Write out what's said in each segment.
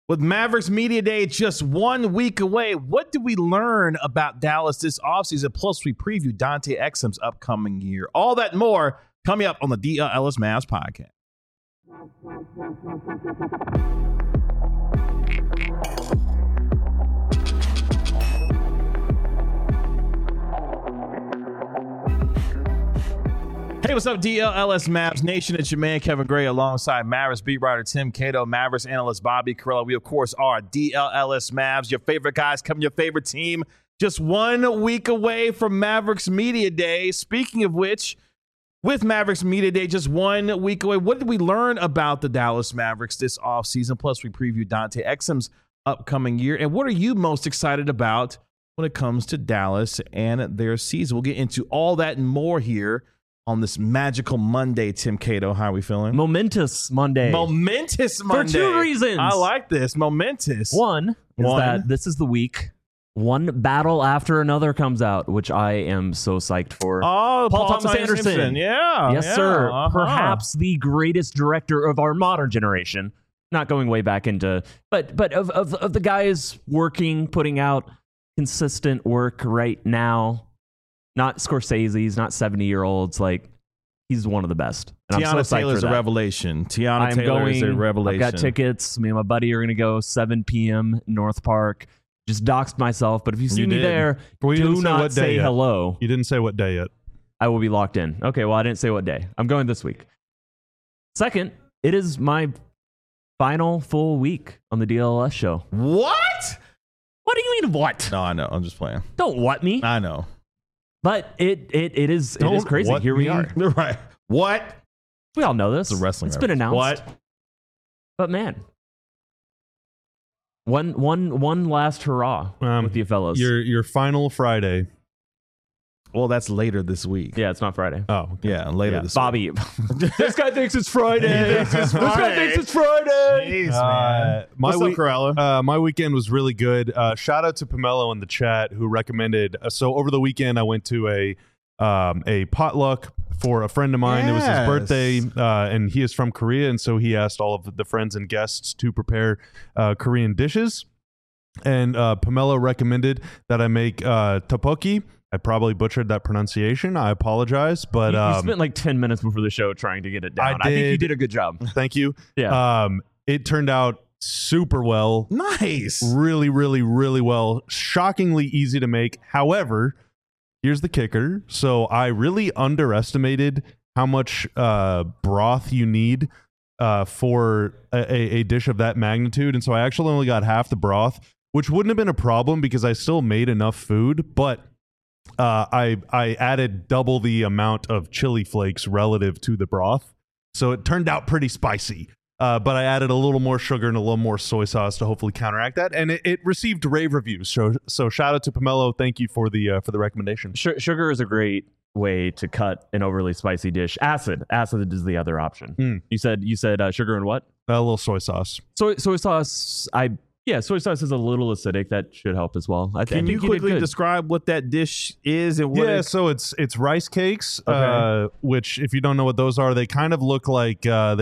With Mavericks Media Day just 1 week away, what did we learn about Dallas this offseason? Plus, we preview Dante Exum's upcoming year. All that and more coming up on the DL Ellis Mavs podcast. Hey, what's up, DLLS Mavs Nation? It's your man, Kevin Gray, alongside Mavericks beat writer Tim Cato, Mavericks analyst Bobby Carrillo. We, of course, are DLLS Mavs, your favorite guys, covering your favorite team. Just 1 week away from Mavericks Media Day. Speaking of which, with Mavericks Media Day just 1 week away, what did we learn about the Dallas Mavericks this offseason? Plus, we preview Dante Exum's upcoming year. And what are you most excited about when it comes to Dallas and their season? We'll get into all that and more here on this magical Monday. Tim Cato, how are we feeling? Momentous Monday. Momentous Monday. For 2 reasons. I like this. Momentous. One is that this is the week one battle after another comes out, which I am so psyched for. Oh, Paul Thomas Anderson. Yeah. Yes, yeah. sir. Uh-huh. Perhaps the greatest director of our modern generation. Not going way back into, but of the guys working, putting out consistent work right now. Not Scorsese's, not 70-year-olds. Like, he's one of the best. And Tiana I'm so Taylor's a revelation. Tiana Taylor is a revelation. I've got tickets. Me and my buddy are going to go 7 p.m. North Park. Just doxed myself, but if you see me there, do not say hello. You didn't say what day yet. I will be locked in. Okay, well, I didn't say what day. I'm going this week. Second, it is my final full week on the DLS show. What? What do you mean, what? No, I know. I'm just playing. Don't what me. I know. But it is crazy. Here we are. Right. What? We all know this. It's a wrestling It's been announced. What? But man, one last hurrah with you fellows. Your final Friday. Well, that's later this week. Yeah, it's not Friday. Oh, okay. Yeah, later this Bobby. This guy thinks it's Friday. This guy thinks it's Friday. Jeez, man. My weekend was really good. Shout out to Pomelo in the chat who recommended. So over the weekend, I went to a potluck for a friend of mine. It was his birthday, and he is from Korea, and so he asked all of the friends and guests to prepare Korean dishes. And Pomelo recommended that I make tteokbokki. I probably butchered that pronunciation. I apologize, but you spent like 10 minutes before the show trying to get it down. I think you did a good job. Thank you. Yeah. It turned out super well. Nice. Really, really, really well. Shockingly easy to make. However, here's the kicker. So I really underestimated how much broth you need for a dish of that magnitude. And so I actually only got half the broth, which wouldn't have been a problem because I still made enough food, but I added double the amount of chili flakes relative to the broth. So it turned out pretty spicy. But I added a little more sugar and a little more soy sauce to hopefully counteract that. And it received rave reviews. So shout out to Pomelo. Thank you for the recommendation. Sugar is a great way to cut an overly spicy dish. Acid is the other option. You said sugar and what? A little soy sauce. Soy sauce. Soy sauce is a little acidic. That should help as well. Can you quickly describe what that dish is and what? So it's rice cakes, which if you don't know what those are, they kind of look like the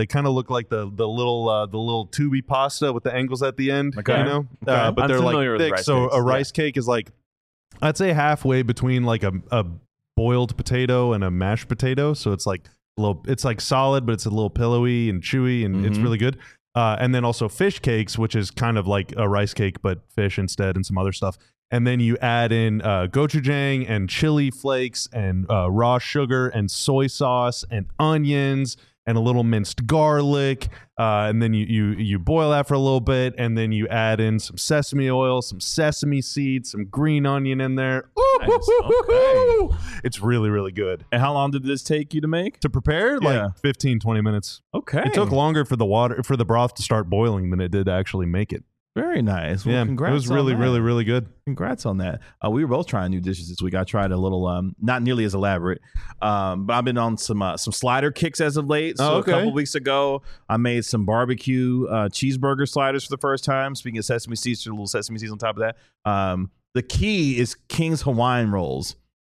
little tubey pasta with the angles at the end. Okay. You know, but I'm they're like with thick. rice So cakes. a rice cake is like, I'd say halfway between like a boiled potato and a mashed potato. So it's like it's like solid, but it's a little pillowy and chewy, and it's really good. And then also fish cakes, which is kind of like a rice cake, but fish instead and some other stuff. And then you add in gochujang and chili flakes and raw sugar and soy sauce and onions and a little minced garlic. And then you boil that for a little bit. And then you add in some sesame oil, some sesame seeds, some green onion in there. Ooh, Nice. Okay. It's really, really good. And how long did this take you to make? To prepare, like 15, 20 minutes. Okay. It took longer for the broth to start boiling than it did to actually make it. Very nice. Well, Yeah, congrats. it was really, on that. really, really good. Congrats on that. We were both trying new dishes this week. I tried a little, not nearly as elaborate, but I've been on some slider kicks as of late. So a couple weeks ago, I made some barbecue cheeseburger sliders for the first time. Speaking of sesame seeds, a little sesame seeds on top of that. The key is King's Hawaiian rolls.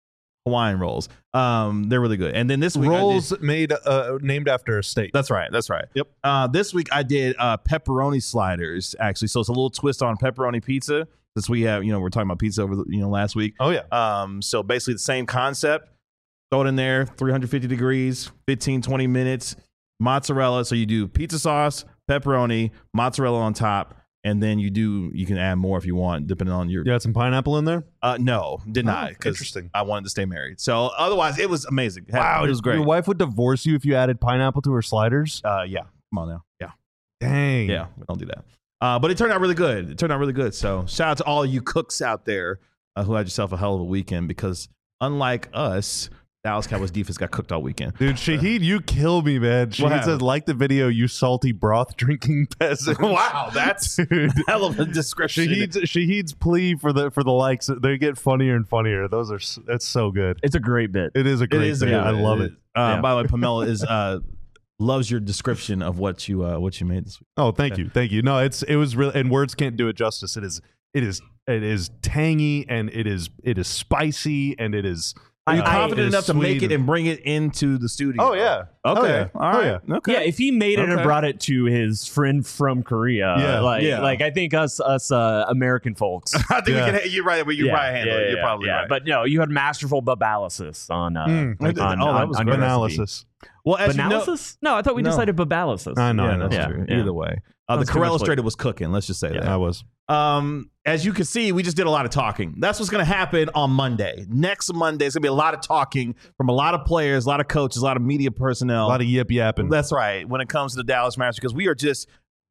Hawaiian rolls. They're really good. And then this week Rolls made named after a state. That's right. Yep. This week I did pepperoni sliders, actually. So it's a little twist on pepperoni pizza. Since we have, we're talking about pizza over last week. Oh yeah. So basically the same concept. Throw it in there, 350 degrees, 15, 20 minutes. Mozzarella. So you do pizza sauce, pepperoni, mozzarella on top. And then you can add more if you want, depending on your. You had some pineapple in there? No, did not. Interesting. I wanted to stay married. So otherwise, it was amazing. Wow, it was great. Your wife would divorce you if you added pineapple to her sliders? Yeah. Come on now. Yeah. Dang. Yeah. We don't do that. But it turned out really good. So shout out to all you cooks out there who had yourself a hell of a weekend, because unlike us, Dallas Cowboys defense got cooked all weekend. Dude, Shahid, you kill me, man. Shahid says, like the video, you salty broth drinking peasant. Wow, that's hell of a description. Shahid's plea for the likes, they get funnier and funnier. That's so good. It's a great bit. It is a great bit. I love it. By the way, Pamela is loves your description of what you made this week. Oh, thank you. No, it was really, and words can't do it justice. It is tangy, and it is spicy, and it is. Are you confident enough to make it and bring it into the studio? Oh yeah. Okay. Oh, yeah. All right. Oh, yeah. Okay. Yeah, if he made it and brought it to his friend from Korea, like I think us American folks. I think we can. You're right. But you're probably handle it. You're probably right. But no, you had masterful babalysis on that was analysis. Well, as Banalysis? No, I thought we decided babalysis. I know. Yeah, that's true. Either way, the Corel Illustrated was cooking. Let's just say that. I was. As you can see, we just did a lot of talking. That's what's going to happen on Monday. Next Monday, it's going to be a lot of talking from a lot of players, a lot of coaches, a lot of media personnel. A lot of yip yapping. That's right. When it comes to the Dallas Mavericks, because we are just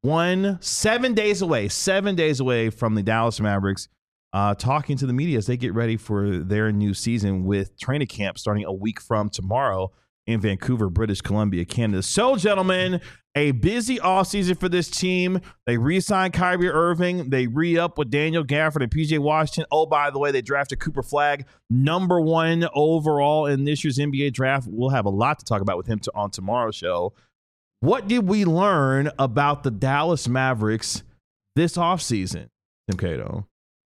7 days away from the Dallas Mavericks talking to the media as they get ready for their new season with training camp starting a week from tomorrow in Vancouver, British Columbia, Canada. So, gentlemen, a busy offseason for this team. They re-signed Kyrie Irving. They re-up with Daniel Gafford and PJ Washington. Oh, by the way, they drafted Cooper Flagg, #1 overall in this year's NBA draft. We'll have a lot to talk about with him on tomorrow's show. What did we learn about the Dallas Mavericks this offseason, Tim Cato?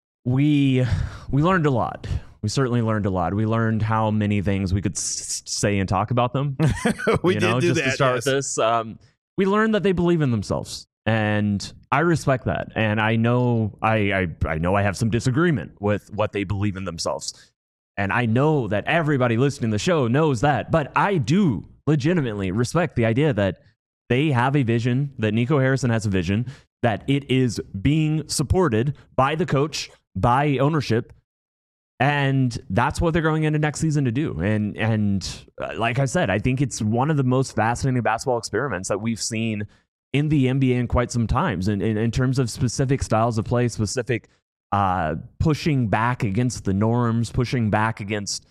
We learned a lot. We certainly learned a lot. We learned how many things we could say and talk about them. We did do just that, to start with this. We learned that they believe in themselves, and I respect that. And I know I have some disagreement with what they believe in themselves, and I know that everybody listening to the show knows that. But I do legitimately respect the idea that they have a vision, that Nico Harrison has a vision, that it is being supported by the coach, by ownership. And that's what they're going into next season to do. And like I said, I think it's one of the most fascinating basketball experiments that we've seen in the NBA in quite some times. In terms of specific styles of play, specific pushing back against the norms, pushing back against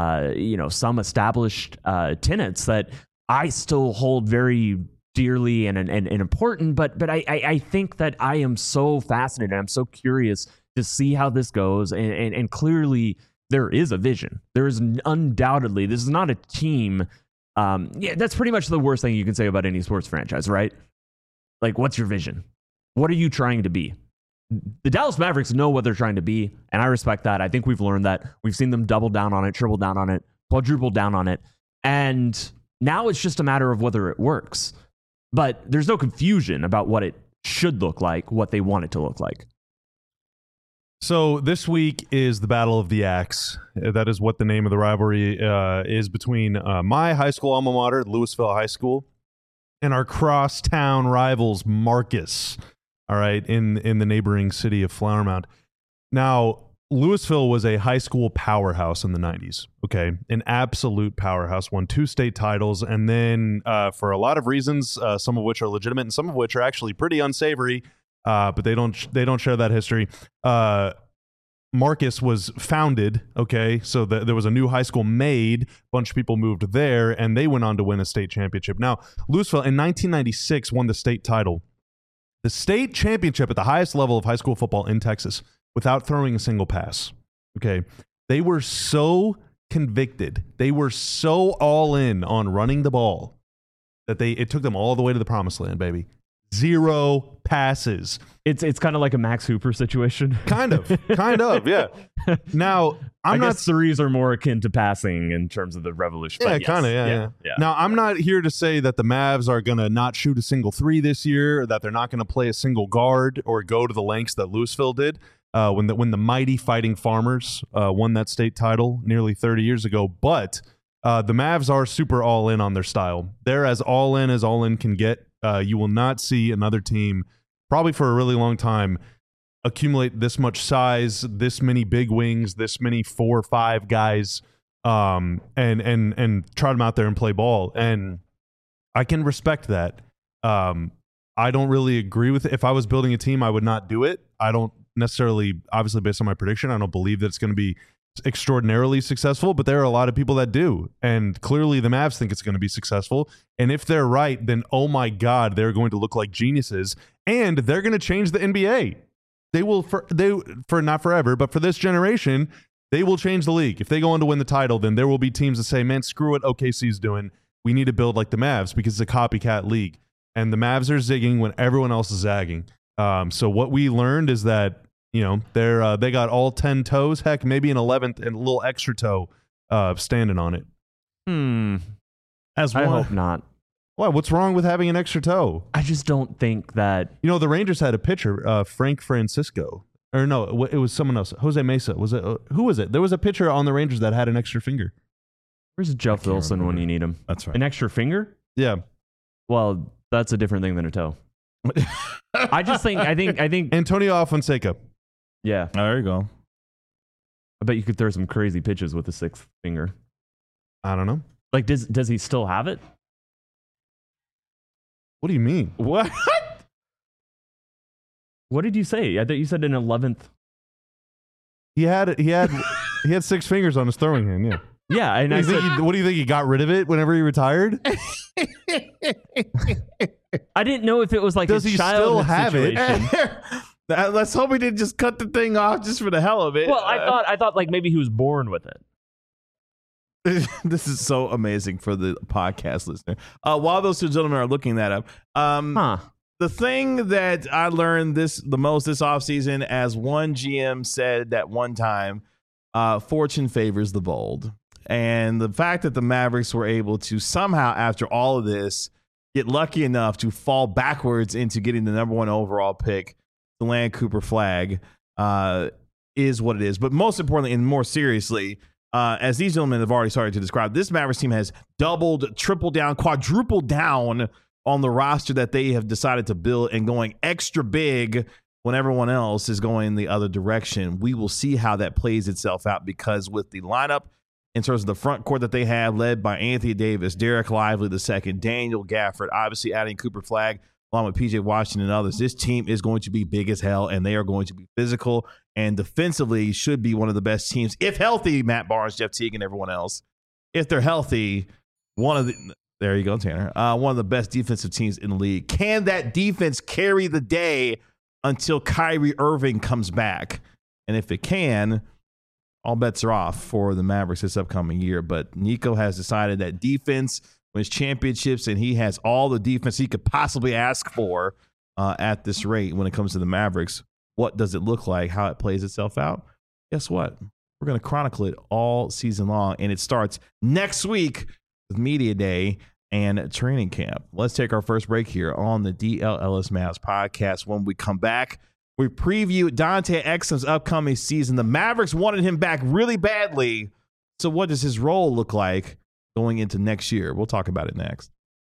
some established tenets that I still hold very dearly and important. But I think that I am so fascinated. I'm so curious to see how this goes, and clearly there is a vision. There is undoubtedly, this is not a team. That's pretty much the worst thing you can say about any sports franchise, right? Like, what's your vision? What are you trying to be? The Dallas Mavericks know what they're trying to be, and I respect that. I think we've learned that. We've seen them double down on it, triple down on it, quadruple down on it, and now it's just a matter of whether it works. But there's no confusion about what it should look like, what they want it to look like. So this week is the Battle of the Axe. That is what the name of the rivalry is between my high school alma mater, Louisville High School, and our crosstown rivals, Marcus. All right, in the neighboring city of Flower Mound. Now, Louisville was a high school powerhouse in the 90s. Okay, an absolute powerhouse. Won 2 state titles, and then for a lot of reasons, some of which are legitimate and some of which are actually pretty unsavory. But they don't share that history. Marcus was founded, okay, so there was a new high school made, a bunch of people moved there, and they went on to win a state championship. Now, Louisville in 1996 won the state title, the state championship at the highest level of high school football in Texas, without throwing a single pass, okay? They were so convicted, they were so all in on running the ball, that it took them all the way to the promised land, baby. 0 passes. It's kind of like a Max Hooper situation. Kind of, yeah. Now, I guess threes are more akin to passing in terms of the revolution. Yeah, but yes. kind of, yeah. Now, I'm not here to say that the Mavs are going to not shoot a single three this year, or that they're not going to play a single guard or go to the lengths that Louisville did when the mighty Fighting Farmers won that state title nearly 30 years ago. But the Mavs are super all in on their style. They're as all in can get. You will not see another team, probably for a really long time, accumulate this much size, this many big wings, this many 4 or 5 guys, and trot them out there and play ball. And I can respect that. I don't really agree with it. If I was building a team, I would not do it. I don't necessarily, obviously based on my prediction, I don't believe that it's going to be extraordinarily successful, but there are a lot of people that do. And clearly the Mavs think it's going to be successful. And if they're right, then oh my God, they're going to look like geniuses. And they're going to change the NBA. They will, for not forever, but for this generation, they will change the league. If they go on to win the title, then there will be teams that say, man, screw what OKC's doing. We need to build like the Mavs because it's a copycat league. And the Mavs are zigging when everyone else is zagging. So what we learned is that, you know, they got all 10 toes, heck, maybe an 11th and a little extra toe standing on it. I hope not. Why? What's wrong with having an extra toe? I just don't think that. You know, the Rangers had a pitcher, Frank Francisco. Or no, it was someone else. Jose Mesa. Was it? Who was it? There was a pitcher on the Rangers that had an extra finger. Where's Jeff Wilson when you need him? That's right. An extra finger? Yeah. Well, that's a different thing than a toe. I think Antonio Alfonseca. Yeah. Oh, there you go. I bet you could throw some crazy pitches with a 6th finger. I don't know. Like, does he still have it? What do you mean? What? What did you say? I thought you said an 11th. He had 6 fingers on his throwing hand. Yeah. Yeah, and what do you think? He got rid of it whenever he retired? I didn't know if it was like does he still have situation. it? Let's hope he didn't just cut the thing off just for the hell of it. Well, I thought like maybe he was born with it. This is so amazing for the podcast listener. While those two gentlemen are looking that up, the thing that I learned the most this offseason, as one GM said at one time, fortune favors the bold. And the fact that the Mavericks were able to somehow, after all of this, get lucky enough to fall backwards into getting the number 1 overall pick, the land Cooper Flag, is what it is. But most importantly, and more seriously, as these gentlemen have already started to describe, this Mavericks team has doubled, tripled down, quadrupled down on the roster that they have decided to build and going extra big when everyone else is going the other direction. We will see how that plays itself out, because with the lineup in terms of the front court that they have, led by Anthony Davis, Derek Lively II, Daniel Gafford, obviously adding Cooper Flag, along with PJ Washington and others, this team is going to be big as hell, and they are going to be physical, and defensively should be one of the best teams, if healthy. Matt Barnes, Jeff Teague, and everyone else, if they're healthy, there you go, Tanner, one of the best defensive teams in the league. Can that defense carry the day until Kyrie Irving comes back? And if it can, all bets are off for the Mavericks this upcoming year. But Nico has decided that defense wins championships, and he has all the defense he could possibly ask for at this rate when it comes to the Mavericks. What does it look like? How it plays itself out? Guess what? We're going to chronicle it all season long, and it starts next week with Media Day and training camp. Let's take our first break here on the DLLS Mavs podcast. When we come back, we preview Dante Exum's upcoming season. The Mavericks wanted him back really badly. So what does his role look like going into next year? We'll talk about it next.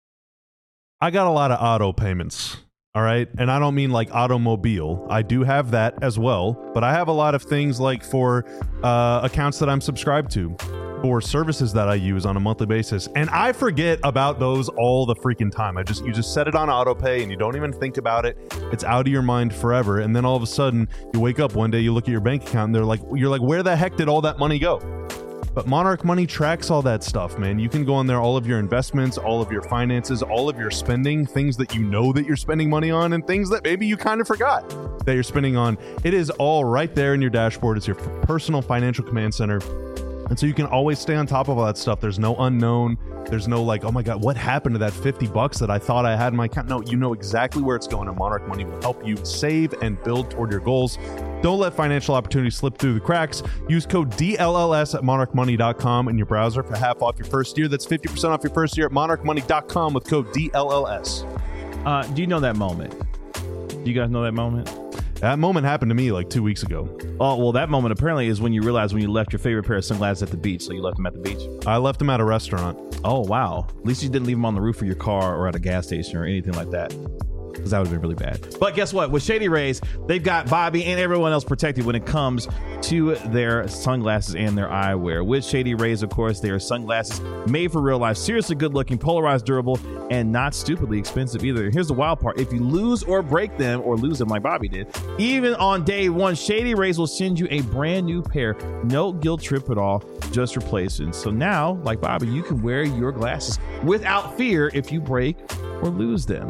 I got a lot of auto payments, all right? And I don't mean like automobile. I do have that as well. But I have a lot of things like for accounts that I'm subscribed to, for services that I use on a monthly basis. And I forget about those all the freaking time. You just set it on auto pay and you don't even think about it. It's out of your mind forever. And then all of a sudden you wake up one day, you look at your bank account, and you're like, where the heck did all that money go? But Monarch Money tracks all that stuff, man. You can go on there, all of your investments, all of your finances, all of your spending, things that you know that you're spending money on, and things that maybe you kind of forgot that you're spending on. It is all right there in your dashboard. It's your personal financial command center. And so you can always stay on top of all that stuff. There's no unknown. There's no like, oh my God, what happened to that $50 that I thought I had in my account? No, you know exactly where it's going, and Monarch Money will help you save and build toward your goals. Don't let financial opportunities slip through the cracks. Use code DLLS at monarchmoney.com in your browser for half off your first year. That's 50% off your first year at monarchmoney.com with code DLLS. Do you know that moment? Do you guys know that moment? That moment happened to me like 2 weeks ago. Oh, well, that moment apparently is when you realize when you left your favorite pair of sunglasses at the beach. So you left them at the beach? I left them at a restaurant. Oh, wow. At least you didn't leave them on the roof of your car or at a gas station or anything like that, because that would have been really bad. But guess what? With Shady Rays, they've got Bobby and everyone else protected when it comes to their sunglasses and their eyewear. With Shady Rays, of course, they are sunglasses made for real life, seriously good looking, polarized, durable, and not stupidly expensive either. Here's the wild part. If you lose or break them or lose them like Bobby did, even on day one, Shady Rays will send you a brand new pair. No guilt trip at all, just replacing. So now, like Bobby, you can wear your glasses without fear if you break or lose them.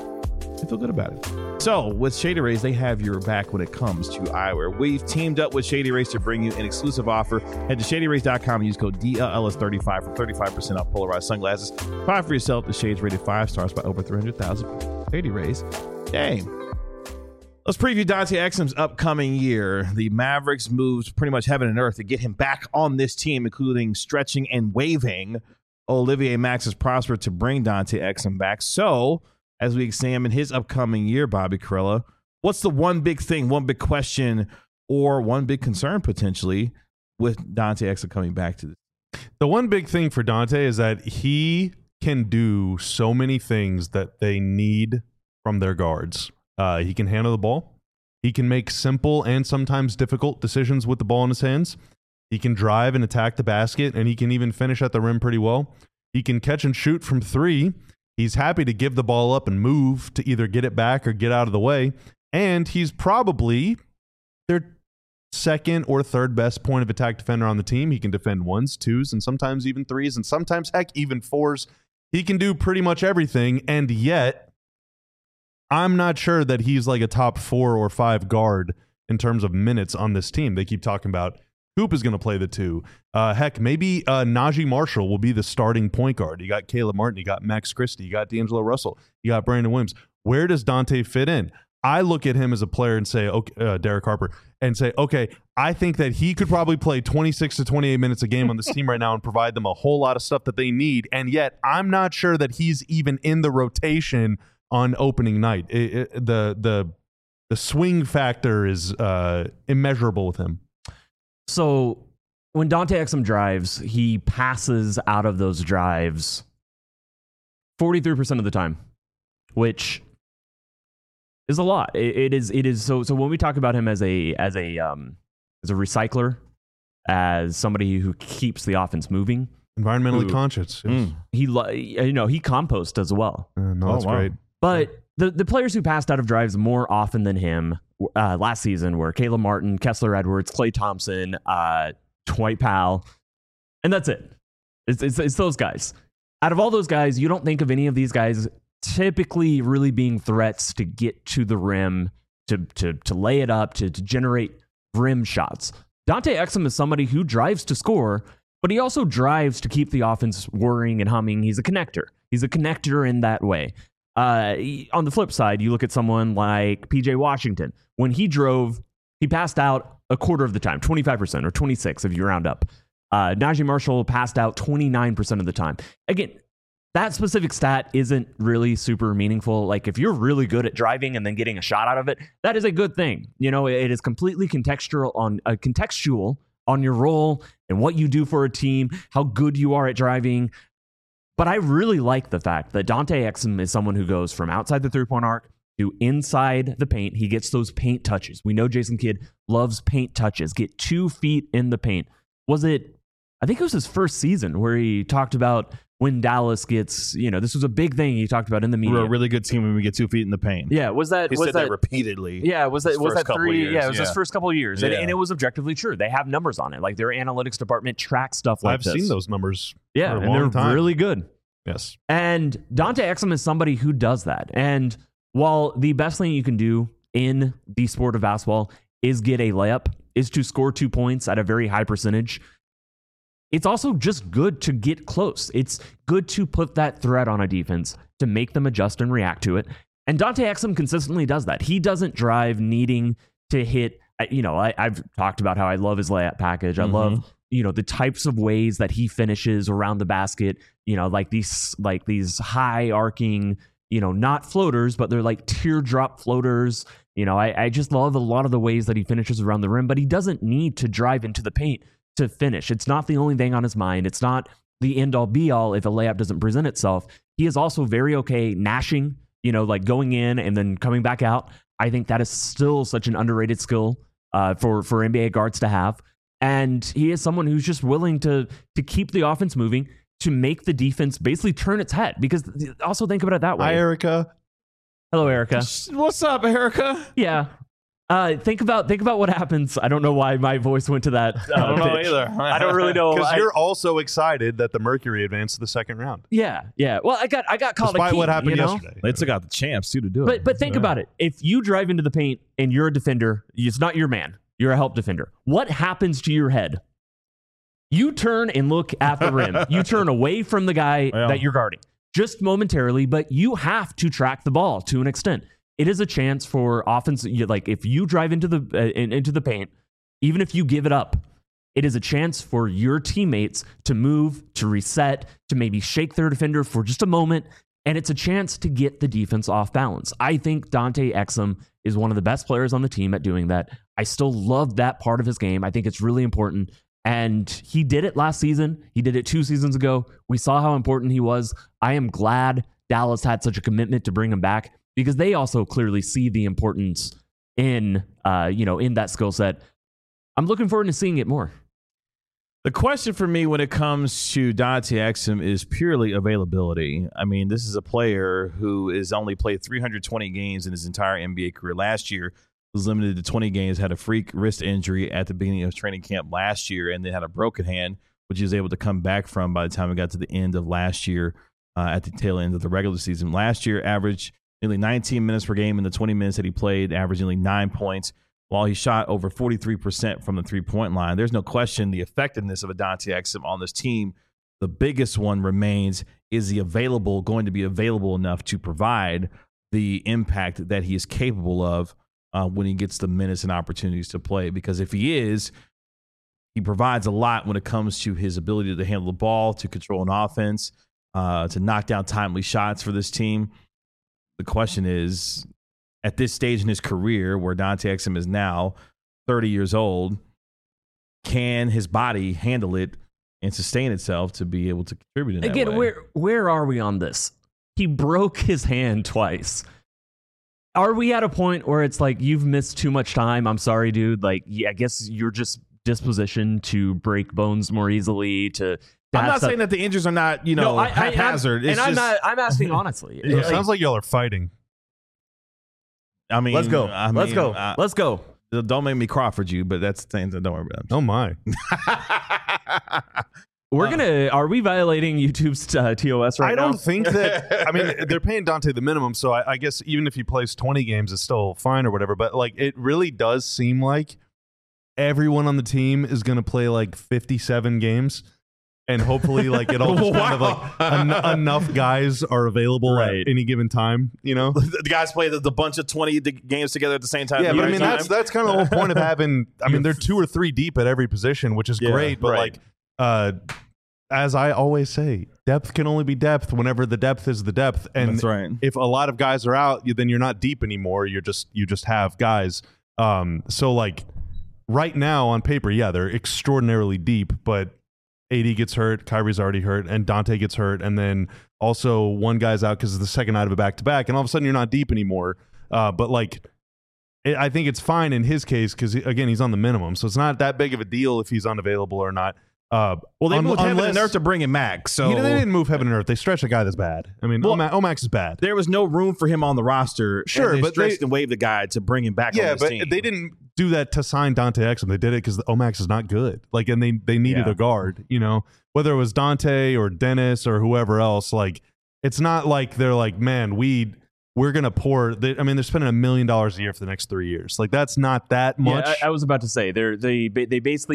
I feel good about it. So with Shady Rays, they have your back when it comes to eyewear. We've teamed up with Shady Rays to bring you an exclusive offer. Head to shadyrays.com and use code DLLS35 for 35% off polarized sunglasses. Buy for yourself the shades rated 5 stars by over 300,000. Shady Rays. Yay. Let's preview Dante Exum's upcoming year. The Mavericks moved pretty much heaven and earth to get him back on this team, including stretching and waiving Olivier Max's prosper to bring Dante Exum back. So, as we examine his upcoming year, Bobby Karalla, what's the one big thing, one big question, or one big concern potentially with Dante Exum coming back to this? The one big thing for Dante is that he can do so many things that they need from their guards. He can handle the ball. He can make simple and sometimes difficult decisions with the ball in his hands. He can drive and attack the basket, and he can even finish at the rim pretty well. He can catch and shoot from three. He's happy to give the ball up and move to either get it back or get out of the way. And he's probably their second or third best point of attack defender on the team. He can defend ones, twos, and sometimes even threes, and sometimes, heck, even fours. He can do pretty much everything, and yet I'm not sure that he's like a top 4 or 5 guard in terms of minutes on this team. They keep talking about Hoop is going to play the 2. Heck, maybe Najee Marshall will be the starting point guard. You got Caleb Martin, you got Max Christie, you got D'Angelo Russell, you got Brandon Williams. Where does Dante fit in? I look at him as a player and say, okay, Derek Harper, and say, okay, I think that he could probably play 26 to 28 minutes a game on this team right now and provide them a whole lot of stuff that they need. And yet, I'm not sure that he's even in the rotation on opening night. The swing factor is immeasurable with him. So when Dante Exum drives, he passes out of those drives 43% of the time, which is a lot. It is. So when we talk about him as a recycler, as somebody who keeps the offense moving, environmentally conscious, yes. he composts as well. That's great. But the players who passed out of drives more often than him last season were Caleb Martin, Kessler Edwards, Klay Thompson, Dwight Powell, and that's it. It's those guys. Out of all those guys, you don't think of any of these guys typically really being threats to get to the rim, to lay it up, to generate rim shots. Dante Exum is somebody who drives to score, but he also drives to keep the offense whirring and humming. He's a connector. He's a connector in that way. On the flip side, you look at someone like PJ Washington. When he drove, he passed out a quarter of the time, 25% or 26% if you round up. Najee Marshall passed out 29% of the time. Again, that specific stat isn't really super meaningful. Like, if you're really good at driving and then getting a shot out of it, that is a good thing. You know, it is completely contextual on your role and what you do for a team, how good you are at driving. But I really like the fact that Dante Exum is someone who goes from outside the three-point arc to inside the paint. He gets those paint touches. We know Jason Kidd loves paint touches. Get 2 feet in the paint. I think it was his first season where he talked about when Dallas gets, this was a big thing he talked about in the media. We're a really good team when we get 2 feet in the paint. Yeah, he said that repeatedly. Yeah, was that 3? Years. Yeah, it was his first couple of years. Yeah. And it was objectively true. They have numbers on it. Like, their analytics department tracks stuff like this. I've seen those numbers for a long time. Really good. Yes. And Dante Exum is somebody who does that. And while the best thing you can do in the sport of basketball is get a layup, is to score 2 points at a very high percentage, it's also just good to get close. It's good to put that threat on a defense to make them adjust and react to it. And Dante Exum consistently does that. He doesn't drive needing to hit. I've talked about how I love his layup package. I love, the types of ways that he finishes around the basket, like these high arcing, not floaters, but they're like teardrop floaters. I just love a lot of the ways that he finishes around the rim, but he doesn't need to drive into the paint to finish. It's not the only thing on his mind. It's not the end all be all if a layup doesn't present itself. He is also very okay gnashing, like going in and then coming back out. I think that is still such an underrated skill for NBA guards to have. And he is someone who's just willing to keep the offense moving, to make the defense basically turn its head. Because also think about it that way. Hi, Erica. Hello, Erica. What's up, Erica? Yeah. Think about what happens. I don't know why my voice went to that. I don't know pitch. either. I don't really know. Because you're also excited that the Mercury advanced to the second round. Yeah. Well, I got called Despite a key, what happened yesterday. They took out the champs too to do it. But think about it. If you drive into the paint and you're a defender, it's not your man. You're a help defender. What happens to your head? You turn and look at the rim. You turn away from the guy that you're guarding just momentarily, but you have to track the ball to an extent. It is a chance for offense. Like if you drive into the paint, even if you give it up, it is a chance for your teammates to move, to reset, to maybe shake their defender for just a moment. And it's a chance to get the defense off balance. I think Dante Exum is one of the best players on the team at doing that. I still love that part of his game. I think it's really important. And he did it last season. He did it 2 seasons ago. We saw how important he was. I am glad Dallas had such a commitment to bring him back, because they also clearly see the importance in that skill set. I'm looking forward to seeing it more. The question for me when it comes to Dante Exum is purely availability. I mean, this is a player who has only played 320 games in his entire NBA career. Last year was limited to 20 games, had a freak wrist injury at the beginning of training camp last year, and then had a broken hand, which he was able to come back from by the time we got to the end of last year, at the tail end of the regular season. Last year averaged nearly 19 minutes per game in the 20 minutes that he played, averaged nearly 9 points, while he shot over 43% from the three-point line. There's no question the effectiveness of a Dante Exum on this team. The biggest one remains, is he going to be available enough to provide the impact that he is capable of when he gets the minutes and opportunities to play? Because if he is, he provides a lot when it comes to his ability to handle the ball, to control an offense, to knock down timely shots for this team. The question is, at this stage in his career, where Dante Exum is now 30 years old, can his body handle it and sustain itself to be able to contribute in that way? Where are we on this? He broke his hand twice. Are we at a point where it's like, you've missed too much time? I'm sorry, dude. Like, I guess you're just dispositioned to break bones more easily. I'm not saying that the injuries are not, haphazard. I'm asking honestly. It sounds like y'all are fighting. I mean, let's go. Let's go. Don't make me Crawford you, but that's the thing. Don't worry about it. Oh my. Are we violating YouTube's TOS right now? I don't think that. I mean, they're paying Dante the minimum, so I guess even if he plays 20 games, it's still fine or whatever. But like, it really does seem like everyone on the team is going to play like 57 games. And hopefully, like, it all just kind of like enough guys are available at any given time. The guys play the bunch of 20 games together at the same time. Yeah, but I mean that's kind of the whole point of having. I mean, they're 2 or 3 deep at every position, which is great. But like, as I always say, depth can only be depth whenever the depth is the depth. And that's right. If a lot of guys are out, then you're not deep anymore. You just have guys. So like right now on paper, yeah, they're extraordinarily deep, but AD gets hurt, Kyrie's already hurt, and Dante gets hurt, and then also one guy's out because it's the second night of a back-to-back, and all of a sudden you're not deep anymore. But like, I think it's fine in his case because, again, he's on the minimum, so it's not that big of a deal if he's unavailable or not. Well, they moved heaven and earth to bring him back. So they didn't move heaven and earth. They stretched a guy that's bad. I mean, Omax is bad. There was no room for him on the roster. Sure, and they but stretched and waived the guy to bring him back. Yeah, on this team. They didn't do that to sign Dante Exum. They did it because Omax is not good. Like, and they needed a guard. Whether it was Dante or Dennis or whoever else. Like, it's not like they're like, man, we're gonna pour. They're spending $1 million a year for the next 3 years. Like, that's not that much. Yeah, I was about to say they basically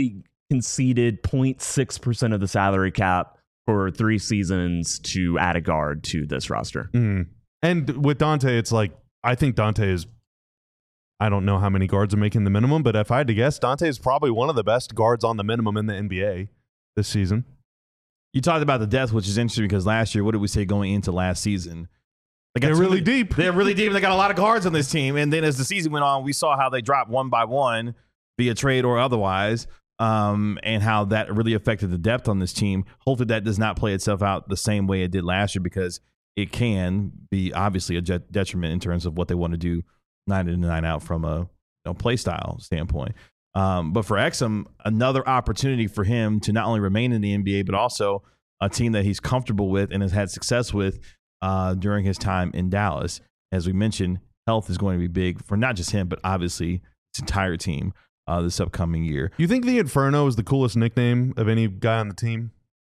conceded 0.6% of the salary cap for 3 seasons to add a guard to this roster. And with Dante, it's like, I think Dante is, I don't know how many guards are making the minimum, but if I had to guess, Dante is probably one of the best guards on the minimum in the NBA this season. You talked about the depth, which is interesting because last year, what did we say going into last season? They're really deep. They're really deep. They got a lot of guards on this team. And then as the season went on, we saw how they dropped one by one via trade or otherwise, and how that really affected the depth on this team. Hopefully that does not play itself out the same way it did last year, because it can be obviously a detriment in terms of what they want to do night in and night out from a play style standpoint. But for Exum, another opportunity for him to not only remain in the NBA, but also a team that he's comfortable with and has had success with during his time in Dallas. As we mentioned, health is going to be big for not just him, but obviously this entire team this upcoming year. You think the Inferno is the coolest nickname of any guy on the team?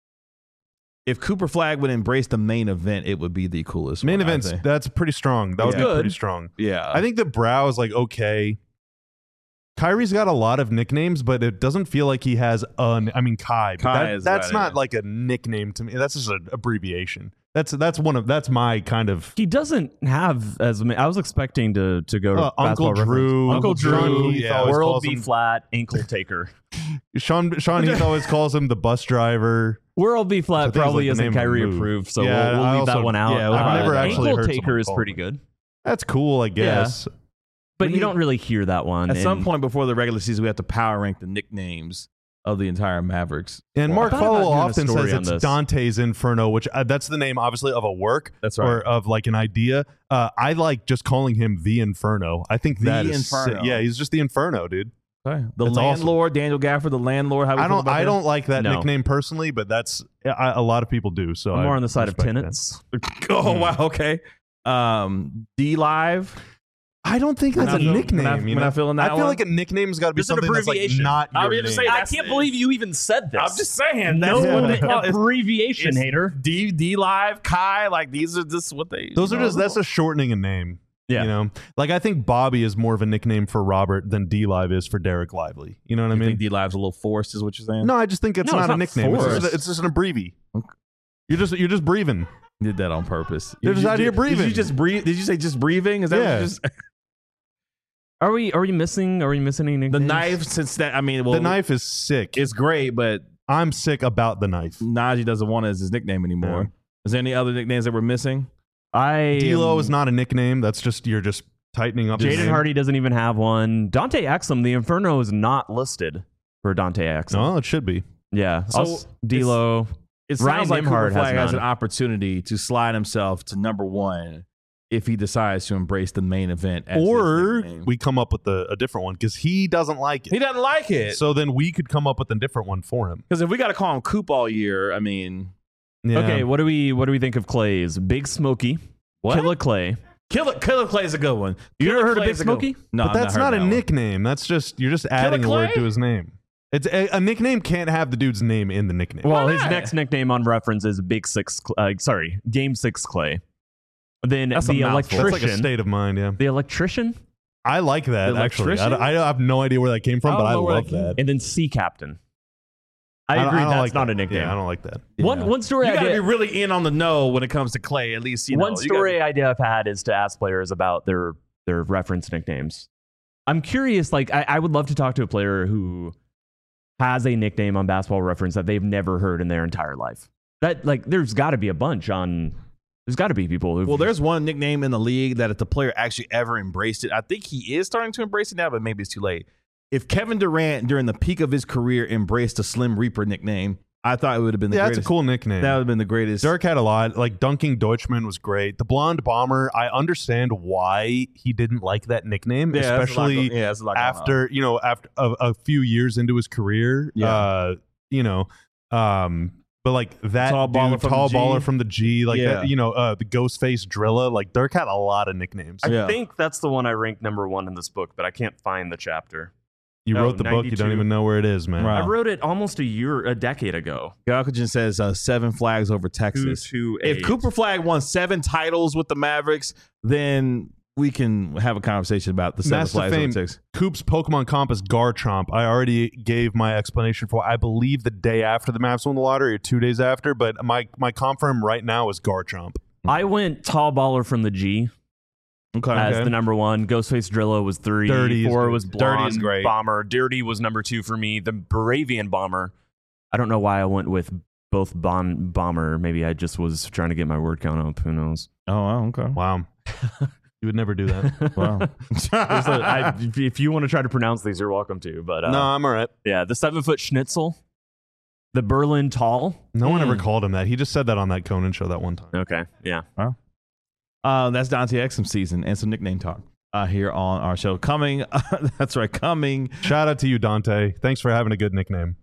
If Cooper Flagg would embrace the main event, it would be the coolest. Main one, events, that's pretty strong. That would be pretty strong. Yeah. I think the Brow is like, okay. Kyrie's got a lot of nicknames, but it doesn't feel like he has Kai. That's not like a nickname to me. That's just an abbreviation. That's my kind of. He doesn't have as many. I was expecting to go to Uncle Drew. Uncle Drew, Yeah, World B flat, ankle taker. Sean Heath always calls him the bus driver. World B flat probably like isn't Kyrie approved, so we'll leave that one out. Yeah, I've never actually ankle heard taker is call pretty it. good. That's cool, I guess. Yeah. But you don't really hear that one. At some point before the regular season, we have to power rank the nicknames of the entire Mavericks. And Mark Follow often says it's this. Dante's Inferno, which that's the name, obviously, of a work. That's right. Or of like an idea. I like just calling him the Inferno. I think that is Inferno. Yeah, he's just the Inferno, dude. Okay. The That's landlord, Daniel Gafford, the landlord. How I don't like that nickname personally, but that's a lot of people do. So I'm more on the side of tenants. Oh wow, okay. D Live. I don't think that's a nickname. When I feel in that I feel one? like a nickname's got to be It's an something that's like abbreviation. not your name. I can't believe you even said this. I'm just saying. No That's one abbreviation it's hater. D Live, Kai. Like these are just what they. Those are just that's a shortening a name. Yeah. You know, like I think Bobby is more of a nickname for Robert than D Live is for Derek Lively. You know what I mean? Think D Live's a little forced, is what you're saying? No, I just think it's not a nickname. It's just an abbrevi. Okay. You're just breathing. Did that on purpose. You're just out here breathing. Did you just breathe? Did you say just breathing? Is that what you just? Are we missing any nicknames? The knife, since that, the knife is sick. It's great, but I'm sick about the knife. Najee doesn't want it as his nickname anymore. Yeah. Is there any other nicknames that we're missing? D-Lo is not a nickname. That's just you're just tightening up. Jaden Hardy doesn't even have one. Dante Exum, the Inferno is not listed for Dante Exum. No, it should be. Yeah. So D-Lo. It Ryan sounds like Cooper Nembhard Flagg has none. an opportunity to slide himself to number one if he decides to embrace the main event. As Or his nickname. we come up with a different one because he doesn't like it. He doesn't like it. So then we could come up with a different one for him. Because if we got to call him Coop all year, I mean, Yeah. Okay, what do we think of Clay's? Big Smokey. what? Killer Clay. Killer Clay is a good one. You Killer ever heard of Clay Big is a good Smokey? one. No, But I've that's heard not a that one. nickname. That's just you're just adding a word Clay? to his name. It's a nickname can't have the dude's name in the nickname. Well, his not? next nickname on reference is Game 6 Clay. Then That's a the mouthful. electrician. That's like a state of mind. Yeah, The electrician, I like that The actually. electrician? I have no idea where that came from, I but don't I know where love that came that. and then Sea Captain. I don't- agree. don't That's like not that. a nickname. Yeah, I don't like that. Yeah. One story You I got to did. be really in on the know when it comes to Clay. At least One story idea I've had is to ask players about their reference nicknames. I'm curious. Like, I would love to talk to a player who has a nickname on Basketball Reference that they've never heard in their entire life. That there's got to be a bunch on. There's got to be people who. Well, there's one nickname in the league that if the player actually ever embraced it, I think he is starting to embrace it now, but maybe it's too late. If Kevin Durant during the peak of his career embraced a Slim Reaper nickname, I thought it would have been the greatest. That's a cool nickname. That would have been the greatest. Dirk had a lot. Like Dunking Deutschman was great. The Blonde Bomber, I understand why he didn't like that nickname, especially that's a lot going on. after after a few years into his career. Yeah. But like that Tall baller from the G. baller from the G, like Yeah. that, the Ghostface Drilla. Like Dirk had a lot of nicknames. Yeah. I think that's the one I ranked number one in this book, but I can't find the chapter. You Oh, wrote the book, you 92. don't even know where it is, man. Right. I wrote it almost a decade ago. Galkajan says 7 flags over Texas. 2-2-8. If Cooper Flagg won 7 titles with the Mavericks, then we can have a conversation about the seven Master flags Fame, it takes. Coop's Pokemon comp is Garchomp. I already gave my explanation for, I believe, the day after the Mavs won the lottery or 2 days after, but my comp for him right now is Garchomp. I went Tall Baller from the G as the number one. Ghostface Drillo was 3. Dirty 4 is was good. Blonde Dirty is great. Bomber. Dirty was number 2 for me. The Baravian Bomber. I don't know why I went with both Bomber. Maybe I just was trying to get my word count up. Who knows? Oh, okay. Wow. You would never do that. Wow. If you want to try to pronounce these, you're welcome to. But No, I'm all right. yeah, the 7-foot Schnitzel, the Berlin Tall. No one ever called him that. He just said that on that Conan show that one time. Okay, yeah. That's Dante Exum season and some nickname talk here on our show. Coming. That's right. Coming. Shout out to you, Dante. Thanks for having a good nickname.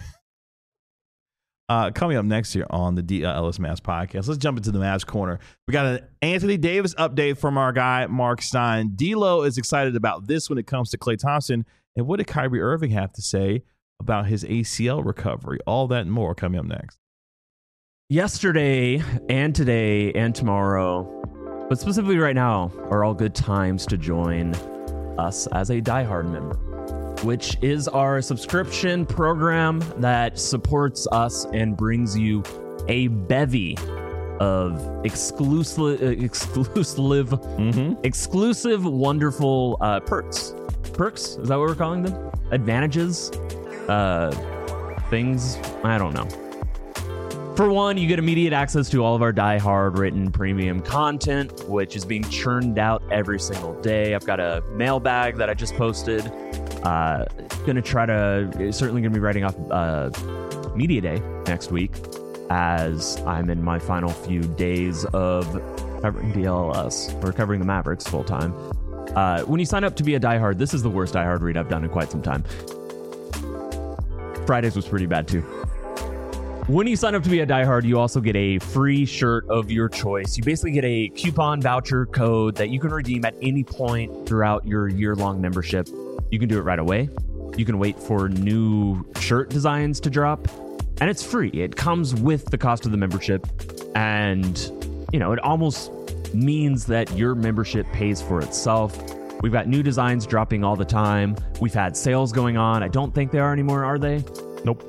Coming up next year on the DLS Mavs podcast, let's jump into the Mavs corner. We got an Anthony Davis update from our guy, Mark Stein. D-Lo is excited about this when it comes to Klay Thompson. And what did Kyrie Irving have to say about his ACL recovery? All that and more coming up next. Yesterday and today and tomorrow, but specifically right now, are all good times to join us as a diehard member, which is our subscription program that supports us and brings you a bevy of exclusive, wonderful perks. Perks? Is that what we're calling them? Advantages? Things? I don't know. For one, you get immediate access to all of our Die-Hard written premium content, which is being churned out every single day. I've got a mailbag that I just posted. Certainly gonna be writing off Media Day next week, as I'm in my final few days of covering DLS, or covering the Mavericks full time. When you sign up to be a Die-Hard, this is the worst Die-Hard read I've done in quite some time. Fridays was pretty bad too. When you sign up to be a diehard, you also get a free shirt of your choice. You basically get a coupon voucher code that you can redeem at any point throughout your year-long membership. You can do it right away. You can wait for new shirt designs to drop, and it's free. It comes with the cost of the membership, and it almost means that your membership pays for itself. We've got new designs dropping all the time. We've had sales going on. I don't think they are anymore, are they? Nope.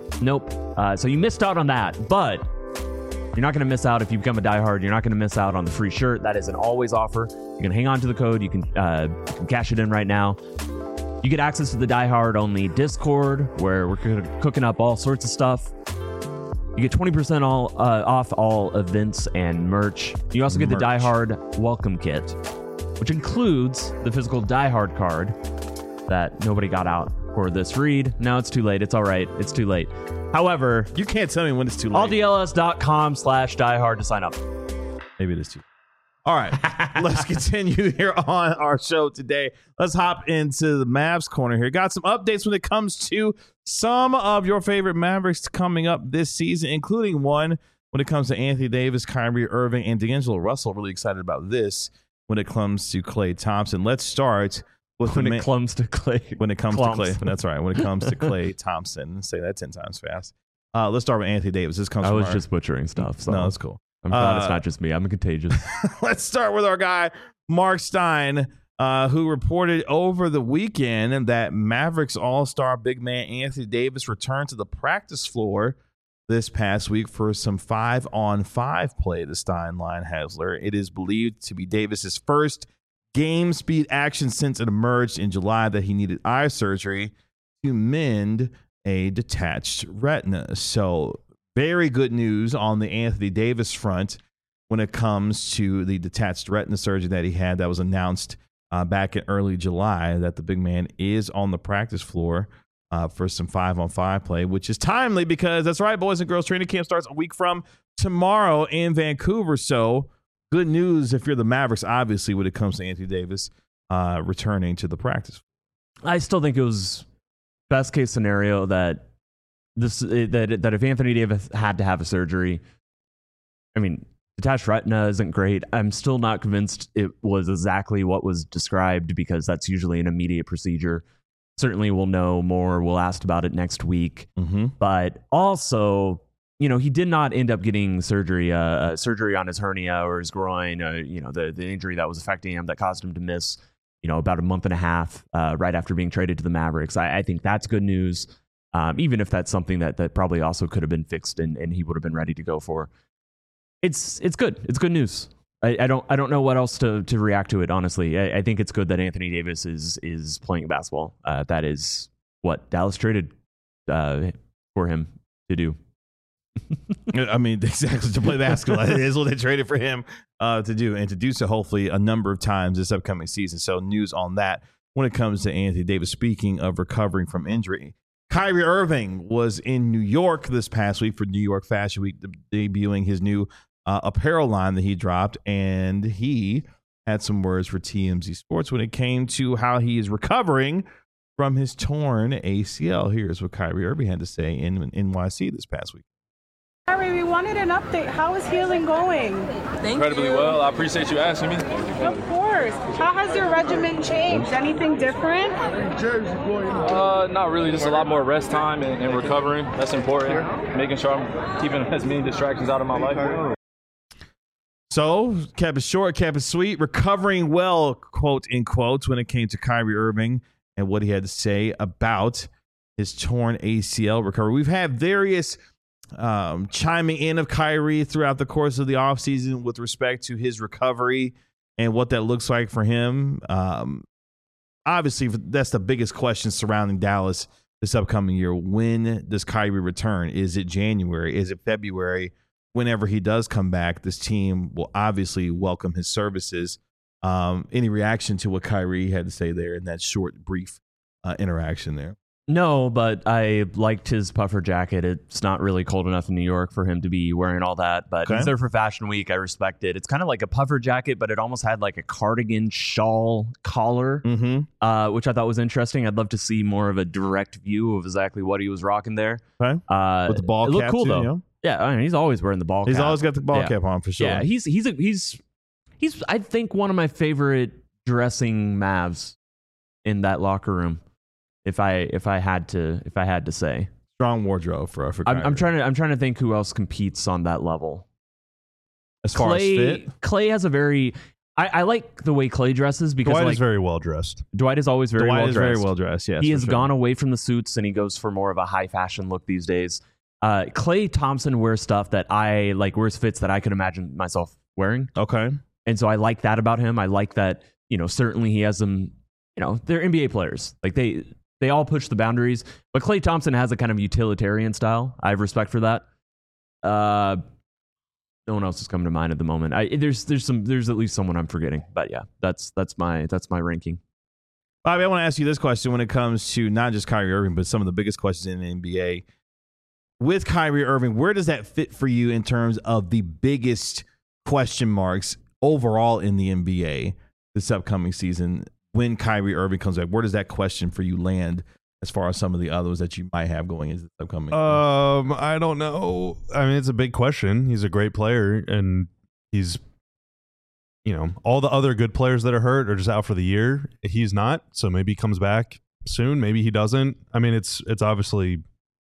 So you missed out on that, but you're not going to miss out if you become a diehard. You're not going to miss out on the free shirt. That is an always offer. You can hang on to the code. You can cash it in right now. You get access to the diehard only Discord, where we're cooking up all sorts of stuff. You get 20% off all events and merch. You also get the diehard welcome kit, which includes the physical diehard card that nobody got out for this read. Now it's too late. It's all right. It's too late. However, You can't tell me when it's too late. alldls.com/diehard to sign up. Maybe it is too. All right, let's continue here on our show today. Let's hop into the Mavs corner here. Got some updates when it comes to some of your favorite Mavericks coming up this season, including one when it comes to Anthony Davis, Kyrie Irving, and D'Angelo Russell. Really excited about this when it comes to Klay Thompson. Let's start with When it comes to Klay. When it comes to Klay, that's right. When it comes to Klay Thompson, say that 10 times fast. Let's start with Anthony Davis. This comes. I from was just butchering stuff. So no, that's cool. I'm glad it's not just me. I'm contagious. Let's start with our guy, Mark Stein, who reported over the weekend that Mavericks All-Star big man Anthony Davis returned to the practice floor this past week for some 5-on-5 play, the Stein line Hasler. It is believed to be Davis's first game speed action since it emerged in July that he needed eye surgery to mend a detached retina. So very good news on the Anthony Davis front when it comes to the detached retina surgery that he had that was announced back in early July, that the big man is on the practice floor for some 5-on-5 play, which is timely because that's right, boys and girls, training camp starts a week from tomorrow in Vancouver. So good news if you're the Mavericks, obviously, when it comes to Anthony Davis returning to the practice. I still think it was best case scenario that if Anthony Davis had to have a surgery, I mean, detached retina isn't great. I'm still not convinced it was exactly what was described because that's usually an immediate procedure. Certainly we'll know more. We'll ask about it next week. Mm-hmm. But also, he did not end up getting surgery on his hernia or his groin, the injury that was affecting him that caused him to miss, about a month and a half right after being traded to the Mavericks. I think that's good news, even if that's something that probably also could have been fixed and he would have been ready to go for. It's good. It's good news. I don't know what else to react to it, honestly. I think it's good that Anthony Davis is playing basketball. That is what Dallas traded for him to do. I mean, exactly, to play basketball. It is what they traded for him to do, and to do so hopefully a number of times this upcoming season. So news on that when it comes to Anthony Davis. Speaking of recovering from injury, Kyrie Irving was in New York this past week for New York Fashion Week, debuting his new apparel line that he dropped, and he had some words for TMZ Sports when it came to how he is recovering from his torn ACL. Here's what Kyrie Irving had to say in NYC this past week. Kyrie, we wanted an update. How is healing going? Incredibly well. I appreciate you asking me. Of course. How has your regimen changed? Anything different? Not really. Just a lot more rest time and recovering. That's important. Making sure I'm keeping as many distractions out of my life. So, kept it short, kept it sweet, recovering well, quote in quotes, when it came to Kyrie Irving and what he had to say about his torn ACL recovery. We've had various chiming in of Kyrie throughout the course of the offseason with respect to his recovery and what that looks like for him. Obviously, that's the biggest question surrounding Dallas this upcoming year. When does Kyrie return? Is it January? Is it February? Whenever he does come back, this team will obviously welcome his services. Any reaction to what Kyrie had to say there in that short, brief interaction there? No, but I liked his puffer jacket. It's not really cold enough in New York for him to be wearing all that, but he's there for Fashion Week. I respect it. It's kind of like a puffer jacket, but it almost had like a cardigan shawl collar, which I thought was interesting. I'd love to see more of a direct view of exactly what he was rocking there. Okay. With the ball cap, it looked cool too, though. You know? Yeah, I mean, he's always wearing the ball cap. He's always got the ball cap on for sure. Yeah, he's I think one of my favorite dressing Mavs in that locker room. If I had to say, strong wardrobe for Kyrie. I'm trying to think who else competes on that level. As far as fit, Clay has a very. I like the way Clay dresses because Dwight is very well dressed. Dwight is always very well dressed. very well dressed. Yes, he has gone away from the suits and he goes for more of a high fashion look these days. Klay Thompson wears stuff that I like, wears fits that I could imagine myself wearing. Okay, and so I like that about him. I like that certainly he has them. They're NBA players. Like they all push the boundaries, but Klay Thompson has a kind of utilitarian style. I have respect for that. No one else is coming to mind at the moment. There's at least someone I'm forgetting, but yeah, that's my ranking. Bobby, I want to ask you this question when it comes to not just Kyrie Irving, but some of the biggest questions in the NBA. With Kyrie Irving, where does that fit for you in terms of the biggest question marks overall in the NBA this upcoming season? When Kyrie Irving comes back, where does that question for you land as far as some of the others that you might have going into the upcoming? I don't know. I mean, it's a big question. He's a great player, and he's, all the other good players that are hurt are just out for the year. He's not, so maybe he comes back soon. Maybe he doesn't. I mean, it's obviously,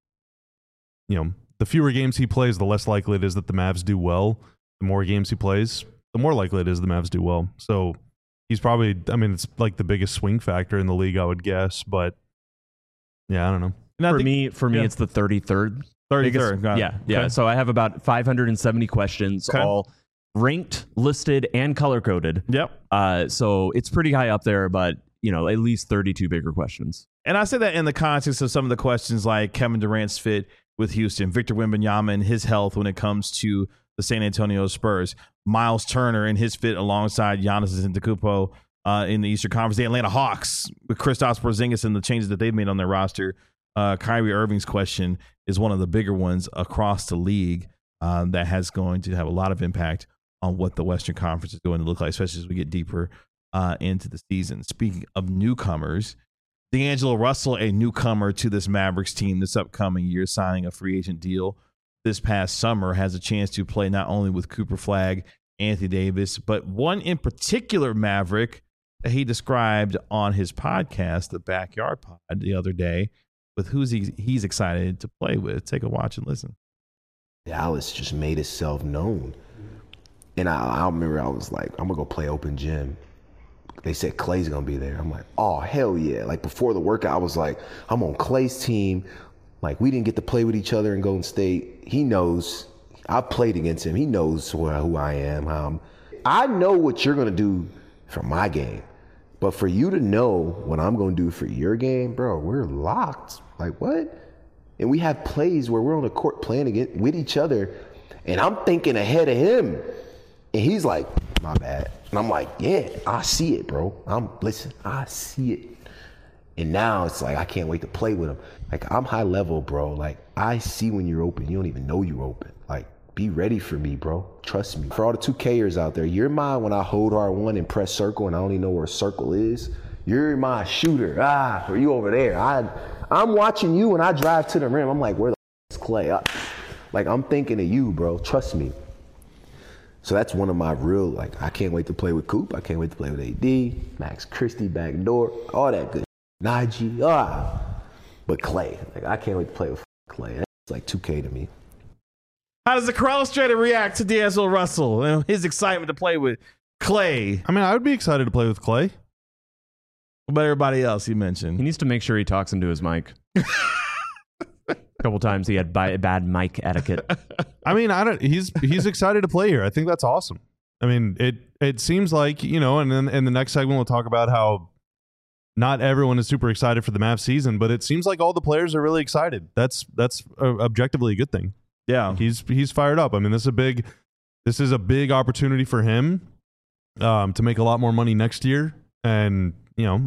the fewer games he plays, the less likely it is that the Mavs do well. The more games he plays, the more likely it is the Mavs do well. So he's probably, it's like the biggest swing factor in the league, I would guess. But yeah, I don't know. For me, it's the 33rd. 33rd. Yeah. Okay. So I have about 570 questions, all ranked, listed, and color coded. Yep. So it's pretty high up there, but at least 32 bigger questions. And I say that in the context of some of the questions like Kevin Durant's fit with Houston, Victor Wembanyama and his health when it comes to the San Antonio Spurs, Miles Turner and his fit alongside Giannis Antetokounmpo in the Eastern Conference, the Atlanta Hawks with Kristaps Porzingis and the changes that they've made on their roster. Kyrie Irving's question is one of the bigger ones across the league that has going to have a lot of impact on what the Western Conference is going to look like, especially as we get deeper into the season. Speaking of newcomers, D'Angelo Russell, a newcomer to this Mavericks team this upcoming year, signing a free agent deal this past summer, has a chance to play not only with Cooper Flagg, Anthony Davis, but one in particular Maverick that he described on his podcast, the Backyard Pod, the other day, with who's he's excited to play with. Take a watch and listen. Dallas just made itself known. And I remember I was like, I'm going to go play open gym. They said Clay's going to be there. I'm like, oh, hell yeah. Like, before the workout, I was like, I'm on Clay's team. Like, we didn't get to play with each other in Golden State. He knows. I've played against him. He knows who I am. I know what you're going to do for my game. But for you to know what I'm going to do for your game, bro, we're locked. Like, what? And we have plays where we're on the court playing with each other, and I'm thinking ahead of him. And he's like, my bad. And I'm like, yeah, I see it, bro. Listen, I see it. And now it's like, I can't wait to play with him. Like, I'm high level, bro. Like, I see when you're open. You don't even know you're open. Like, be ready for me, bro. Trust me. For all the 2Kers out there, you're mine when I hold R1 and press circle and I don't even know where circle is. You're my shooter. Or you over there. I'm watching you when I drive to the rim. I'm like, where the is Clay? Like, I'm thinking of you, bro. Trust me. So that's one of my real, like, I can't wait to play with Coop. I can't wait to play with AD, Max Christie, backdoor, all that good. Najee, but Clay. Like, I can't wait to play with Clay. That's like 2K to me. How does the Corrales Trader react to D'Angelo Russell and his excitement to play with Clay? I mean, I would be excited to play with Clay. What about everybody else he mentioned? He needs to make sure he talks into his mic. A couple times he had bad mic etiquette. I mean, he's excited to play here. I think that's awesome. I mean, it seems like, you know, and then in the next segment we'll talk about how not everyone is super excited for the Mavs season, but it seems like all the players are really excited. That's objectively a good thing. Yeah, he's fired up. I mean, this is a big opportunity for him to make a lot more money next year, and you know,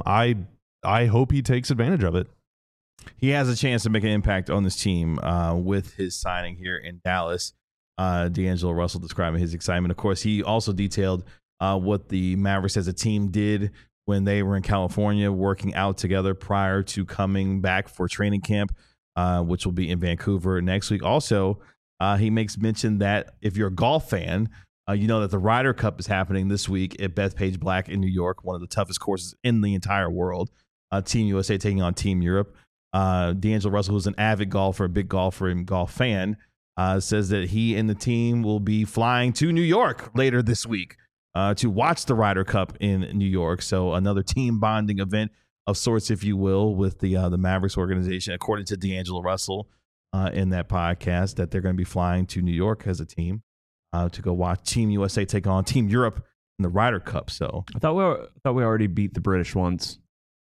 I hope he takes advantage of it. He has a chance to make an impact on this team with his signing here in Dallas. D'Angelo Russell describing his excitement. Of course, he also detailed what the Mavericks as a team did when they were in California working out together prior to coming back for training camp, which will be in Vancouver next week. Also, he makes mention that if you're a golf fan, you know that the Ryder Cup is happening this week at Bethpage Black in New York, one of the toughest courses in the entire world. Team USA taking on Team Europe. D'Angelo Russell, who's an avid golfer, a big golfer and golf fan, says that he and the team will be flying to New York later this week to watch the Ryder Cup in New York. So another team bonding event of sorts, if you will, with the Mavericks organization, according to D'Angelo Russell in that podcast, that they're going to be flying to New York as a team to go watch Team USA take on Team Europe in the Ryder Cup. So I thought we already beat the British once.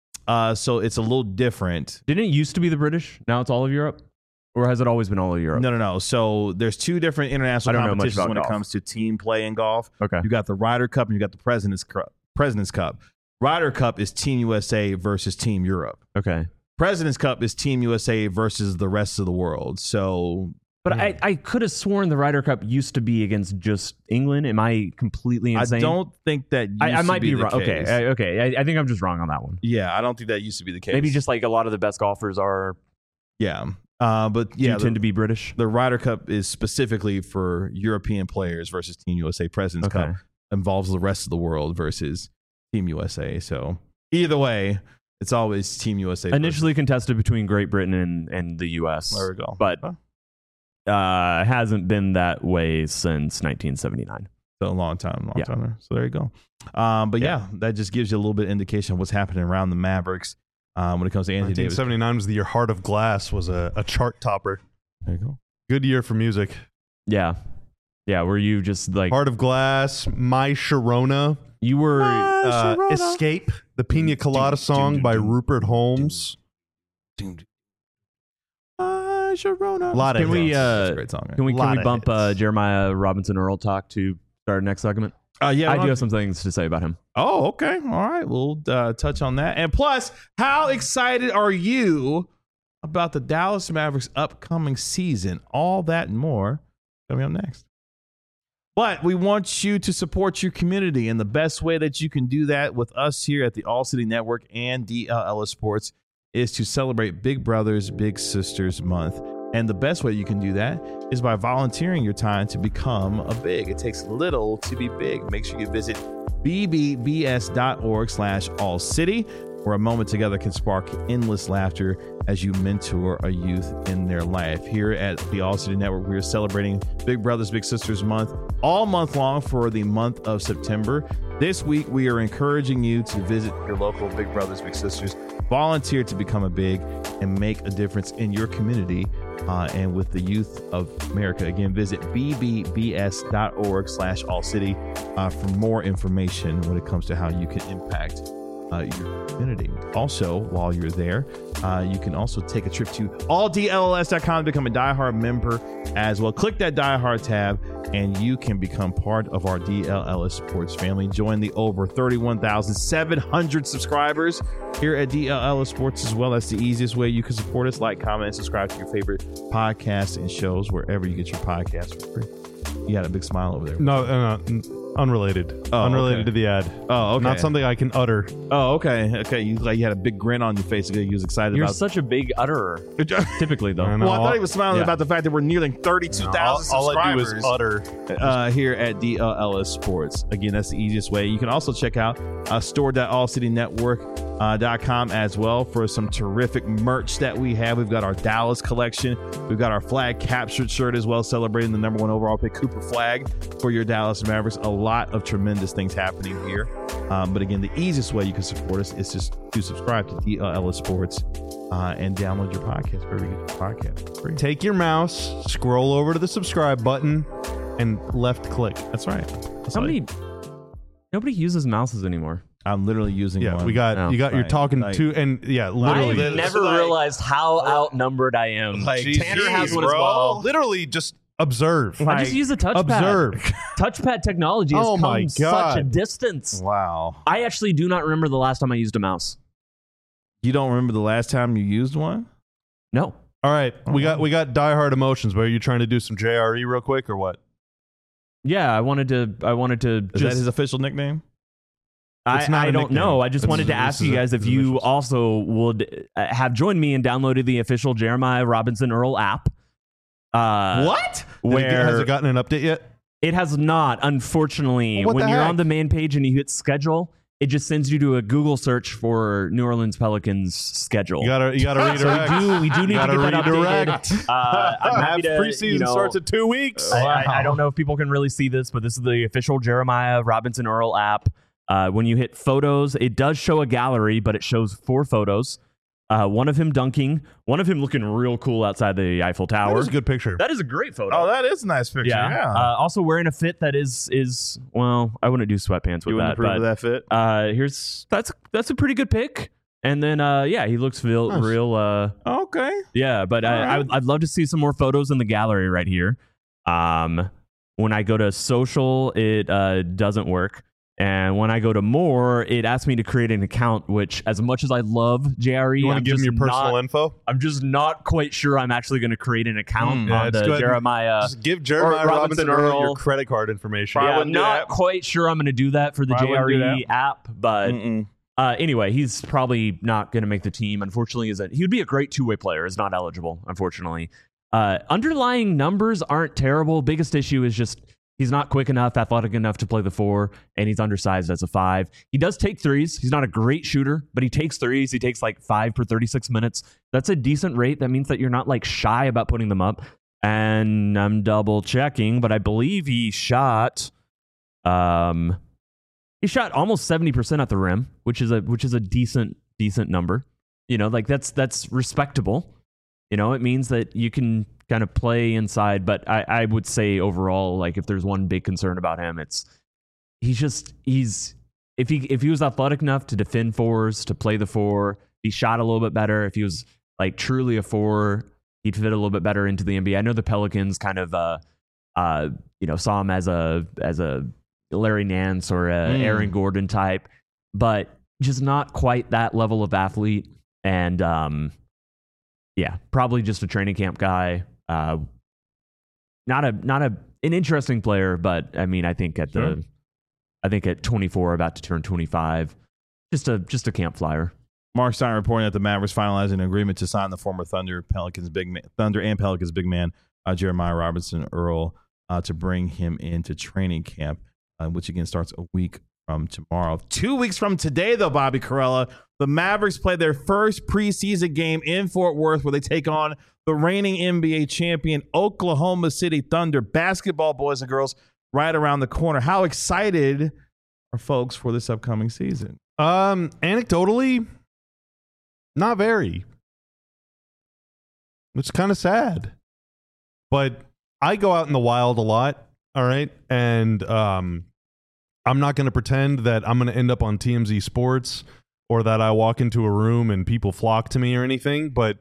So it's a little different. Didn't it used to be the British? Now it's all of Europe? Or has it always been all of Europe? No. So there's two different international competitions when it comes to team play in golf. Okay. You got the Ryder Cup and you got the President's Cup. Ryder Cup is Team USA versus Team Europe. Okay. President's Cup is Team USA versus the rest of the world. So, but I could have sworn the Ryder Cup used to be against just England. Am I completely insane? I don't think that I might be wrong. Case. Okay. I think I'm just wrong on that one. Yeah, I don't think that used to be the case. Maybe just like a lot of the best golfers are. Yeah. But yeah, tend to be British. The Ryder Cup is specifically for European players versus Team USA. President's Cup involves the rest of the world versus Team USA. So either way, it's always Team USA. Initially contested between Great Britain and the US. There we go. But hasn't been that way since 1979. So a long time there. So there you go. But yeah, that just gives you a little bit of indication of what's happening around the Mavericks. When it comes to Anthony Davis. 1979 was the year Heart of Glass was a chart topper. There you go. Good year for music. Yeah. Were you just like Heart of Glass, My Sharona? You were Escape, the Pina Colada song by Rupert Holmes. Sharona. Can we great song, can we bump Jeremiah Robinson Earl talk to start next segment? Yeah, I do have some things to say about him. Oh, okay. All right. We'll touch on that. And plus, how excited are you about the Dallas Mavericks upcoming season? All that and more coming up next. But we want you to support your community, and the best way that you can do that with us here at the All City Network and DLLS Sports is to celebrate Big Brothers Big Sisters Month. And the best way you can do that is by volunteering your time to become a big. It takes little to be big. Make sure you visit bbbs.org/allcity, where a moment together can spark endless laughter as you mentor a youth in their life. Here at the All City Network, we are celebrating Big Brothers Big Sisters Month all month long for the month of September. This week, we are encouraging you to visit your local Big Brothers Big Sisters, volunteer to become a big, and make a difference in your community and with the youth of America. Again, visit bbbs.org/allcity for more information when it comes to how you can impact your community. Also, while you're there, you can also take a trip to alldlls.com to become a diehard member as well. Click that diehard tab and you can become part of our DLLS Sports family. Join the over 31,700 subscribers here at DLLS Sports as well. That's the easiest way you can support us. Like, comment, and subscribe to your favorite podcasts and shows wherever you get your podcasts for free. You got a big smile over there. No, unrelated. Unrelated to the ad. Oh, okay. Not something I can utter. Oh, okay. Okay. You had a big grin on your face. You was excited You're about such a big utterer. Typically, though. Well, I thought he was smiling about the fact that we're nearing 32,000 All I do subscribers is utter. here at DLLS Sports. Again, that's the easiest way. You can also check out store.allcitynetwork.com as well for some terrific merch that we have. We've got our Dallas collection. We've got our flag captured shirt as well, celebrating the #1 overall pick Cooper flag for your Dallas Mavericks. A lot of tremendous things happening here. But again, the easiest way you can support us is just to subscribe to DLLS Sports and download your podcast wherever you get your podcast. Free. Take your mouse, scroll over to the subscribe button, and left click. That's right. Nobody uses mouses anymore. I'm literally using one. You got you're talking to, and literally. I never realized how outnumbered I am. Tanner has one as well. Literally just observe. I just use a touchpad. Observe. Touchpad technology has come such a distance. Wow. I actually do not remember the last time I used a mouse. You don't remember the last time you used one? No. All right, we got diehard emotions. But are you trying to do some JRE real quick or what? Yeah, I wanted to. Is that his official nickname? I don't know. I just wanted to ask you guys if you also would have joined me and downloaded the official Jeremiah Robinson Earl app. What? Has it gotten an update yet? It has not, unfortunately. What when the you're heck? on the main page and you hit schedule, it just sends you to a Google search for New Orleans Pelicans schedule. You gotta redirect. So we do need to get that updated. I'm happy to, preseason starts in 2 weeks. I don't know if people can really see this, but this is the official Jeremiah Robinson Earl app. When you hit photos, it does show a gallery, but it shows 4 photos. One of him dunking, one of him looking real cool outside the Eiffel Tower. That is a good picture. That is a great photo. Oh, that is a nice picture. Yeah. Also wearing a fit that is well, I wouldn't do sweatpants with You wouldn't approve of that fit? That's a pretty good pick. And then he looks real. Okay. Yeah, but I'd love to see some more photos in the gallery right here. When I go to social, it doesn't work. And when I go to more, it asks me to create an account, which as much as I love JRE, You want to give him your personal info? I'm just not quite sure I'm actually going to create an account on just the go ahead and Jeremiah. Just give Jeremiah Robinson Earl your credit card information. Yeah, I'm not quite sure I'm going to do that for the JRE app, but anyway, he's probably not going to make the team. Unfortunately, he would be a great two-way player. Is not eligible, unfortunately. Underlying numbers aren't terrible. Biggest issue is just he's not quick enough, athletic enough to play the 4, and he's undersized as a 5. He does take threes. He's not a great shooter, but he takes threes. He takes like 5 per 36 minutes. That's a decent rate. That means that you're not like shy about putting them up. And I'm double checking, but I believe he shot almost 70% at the rim, which is a decent number. You know, like that's respectable. You know, it means that you can kind of play inside, but I would say overall, like if there's one big concern about him, it's if he was athletic enough to defend 4s, to play the 4, he shot a little bit better. If he was like truly a 4, he'd fit a little bit better into the NBA. I know the Pelicans kind of saw him as a Larry Nance or a Aaron Gordon type, but just not quite that level of athlete. And probably just a training camp guy. Not an interesting player, but I mean, I think at 24, about to turn 25, just a camp flyer. Mark Stein reporting that the Mavericks finalizing an agreement to sign the former Thunder and Pelicans big man Jeremiah Robinson Earl to bring him into training camp, which again starts a week from tomorrow. 2 weeks from today, though, Bobby Karalla, the Mavericks play their first preseason game in Fort Worth where they take on the reigning NBA champion Oklahoma City Thunder. Basketball, boys and girls, right around the corner. How excited are folks for this upcoming season? Anecdotally, not very. It's kind of sad. But I go out in the wild a lot, all right? And I'm not going to pretend that I'm going to end up on TMZ Sports or that I walk into a room and people flock to me or anything, but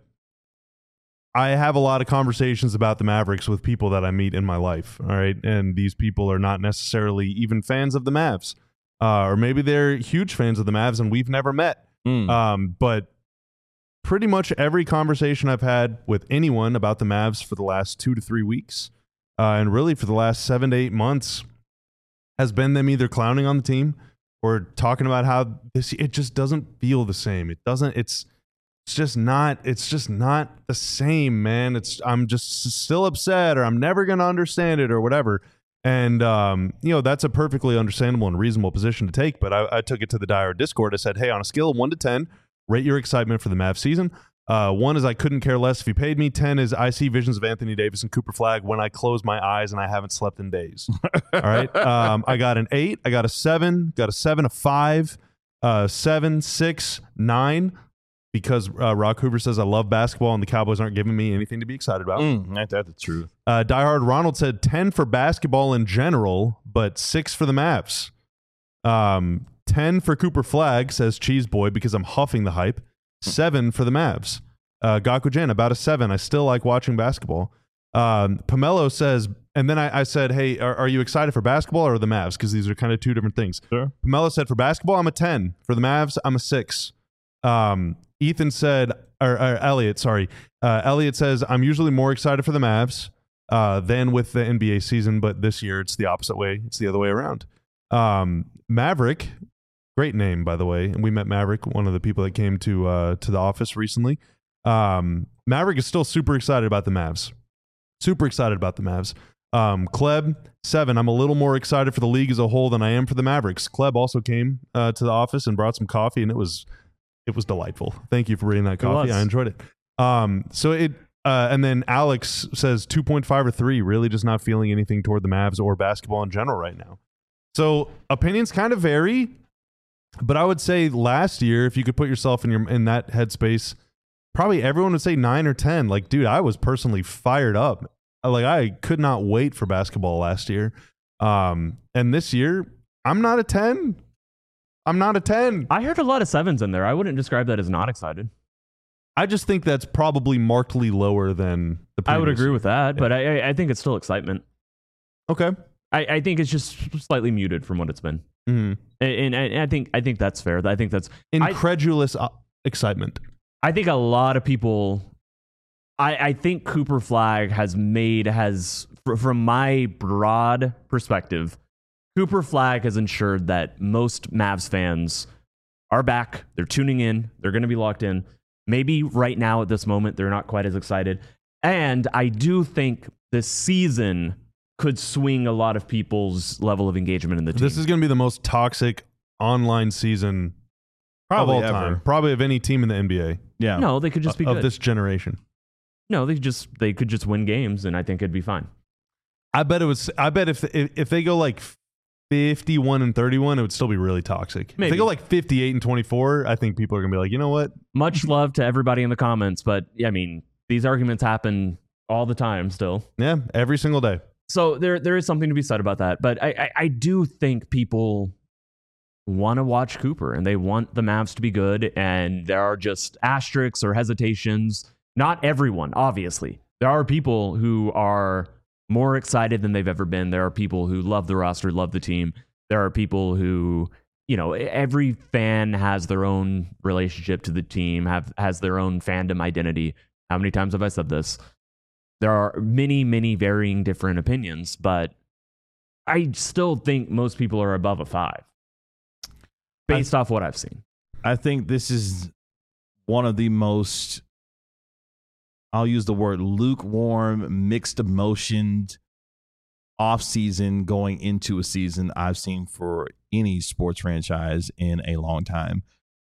I have a lot of conversations about the Mavericks with people that I meet in my life, all right? And these people are not necessarily even fans of the Mavs. Or maybe they're huge fans of the Mavs and we've never met. But pretty much every conversation I've had with anyone about the Mavs for the last 2 to 3 weeks, and really for the last 7 to 8 months, has been them either clowning on the team or talking about how it just doesn't feel the same. It's just not the same, man. I'm just still upset, or I'm never going to understand it, or whatever. And, that's a perfectly understandable and reasonable position to take. But I took it to the Dire Discord. I said, hey, on a scale of 1 to 10, rate your excitement for the Mavs season. 1 is I couldn't care less if you paid me. 10 is I see visions of Anthony Davis and Cooper Flagg when I close my eyes and I haven't slept in days. All right. I got an 8. I got a 7. Got a 7, a 5, 7, 6, 9. Because Rock Hoover says I love basketball and the Cowboys aren't giving me anything to be excited about. That's the truth. Diehard Ronald said 10 for basketball in general, but 6 for the Mavs. 10 for Cooper Flagg, says Cheese Boy, because I'm huffing the hype. 7 for the Mavs. Gakujan, about a 7. I still like watching basketball. Pomelo says, and then I said, hey, are you excited for basketball or the Mavs? Because these are kind of two different things. Sure. Pomelo said, for basketball, I'm a 10. For the Mavs, I'm a 6. Ethan said, or Elliot, sorry. Elliot says, I'm usually more excited for the Mavs than with the NBA season, but this year it's the opposite way. It's the other way around. Maverick, great name, by the way. And we met Maverick, one of the people that came to the office recently. Maverick is still super excited about the Mavs. Super excited about the Mavs. Kleb, 7. I'm a little more excited for the league as a whole than I am for the Mavericks. Kleb also came to the office and brought some coffee, and it was delightful. Thank you for bringing that coffee. I enjoyed it. And then Alex says 2.5 or 3, really just not feeling anything toward the Mavs or basketball in general right now. So opinions kind of vary, but I would say last year, if you could put yourself in that headspace, probably everyone would say 9 or 10. Like, dude, I was personally fired up. Like, I could not wait for basketball last year. And this year, I'm not a 10. I'm not a 10. I heard a lot of 7s in there. I wouldn't describe that as not excited. I just think that's probably markedly lower than the previous I would agree year. with that, but I think it's still excitement. Okay. I think it's just slightly muted from what it's been. Mm-hmm. And I think that's fair. I think that's incredulous excitement. I think a lot of people. I think Cooper Flagg has from my broad perspective, Cooper Flagg has ensured that most Mavs fans are back. They're tuning in. They're going to be locked in. Maybe right now at this moment, they're not quite as excited. And I do think this season could swing a lot of people's level of engagement in the team. This is going to be the most toxic online season probably of all ever. time. Probably of any team in the NBA. Yeah. No, they could just be good. Of this generation. No, they could just win games, and I think it'd be fine. I bet if they go like 51 and 31, it would still be really toxic. Maybe. If they go like 58 and 24, I think people are going to be like, you know what? Much love to everybody in the comments, but I mean, these arguments happen all the time still. Yeah, every single day. So there is something to be said about that. But I do think people want to watch Cooper and they want the Mavs to be good. And there are just asterisks or hesitations. Not everyone, obviously. There are people who are more excited than they've ever been. There are people who love the roster, love the team. There are people who, every fan has their own relationship to the team, has their own fandom identity. How many times have I said this? There are many, many varying different opinions, but I still think most people are above a 5 based off what I've seen. I think this is one of the most, I'll use the word lukewarm, mixed emotioned off season going into a season I've seen for any sports franchise in a long time.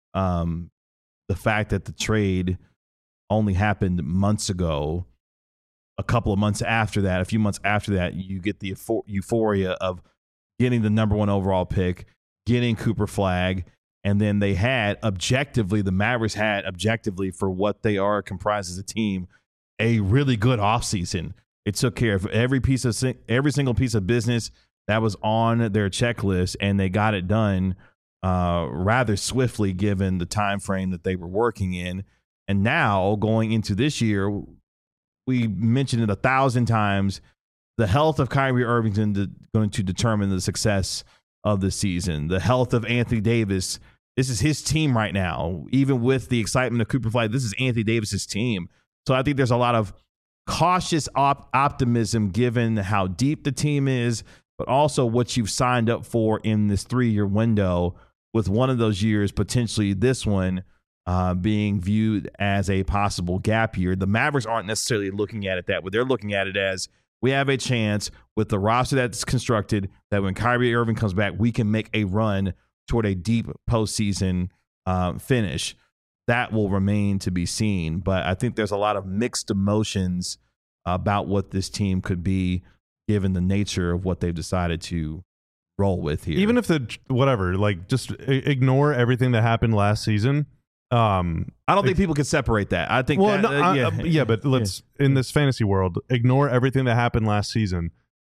The fact that the trade only happened months ago, a couple of months after that, a few months after that, you get the euphoria of getting the number 1 overall pick, getting Cooper Flagg, and then they had the Mavericks had objectively for what they are comprised as a team, a really good offseason. It took care of every single piece of business that was on their checklist, and they got it done rather swiftly given the time frame that they were working in. And now going into this year, we mentioned it 1,000 times, the health of Kyrie Irving is going to determine the success of the season. The health of Anthony Davis, this is his team right now. Even with the excitement of Cooper Flagg, this is Anthony Davis's team. So I think there's a lot of cautious optimism given how deep the team is, but also what you've signed up for in this 3-year window, with one of those years, potentially this one, being viewed as a possible gap year. The Mavericks aren't necessarily looking at it that way. They're looking at it as, we have a chance with the roster that's constructed that when Kyrie Irving comes back, we can make a run toward a deep postseason finish. That will remain to be seen. But I think there's a lot of mixed emotions about what this team could be given the nature of what they've decided to roll with here. Even if just ignore everything that happened last season. I don't think people can separate that. I think but let's in this fantasy world, ignore everything that happened last season.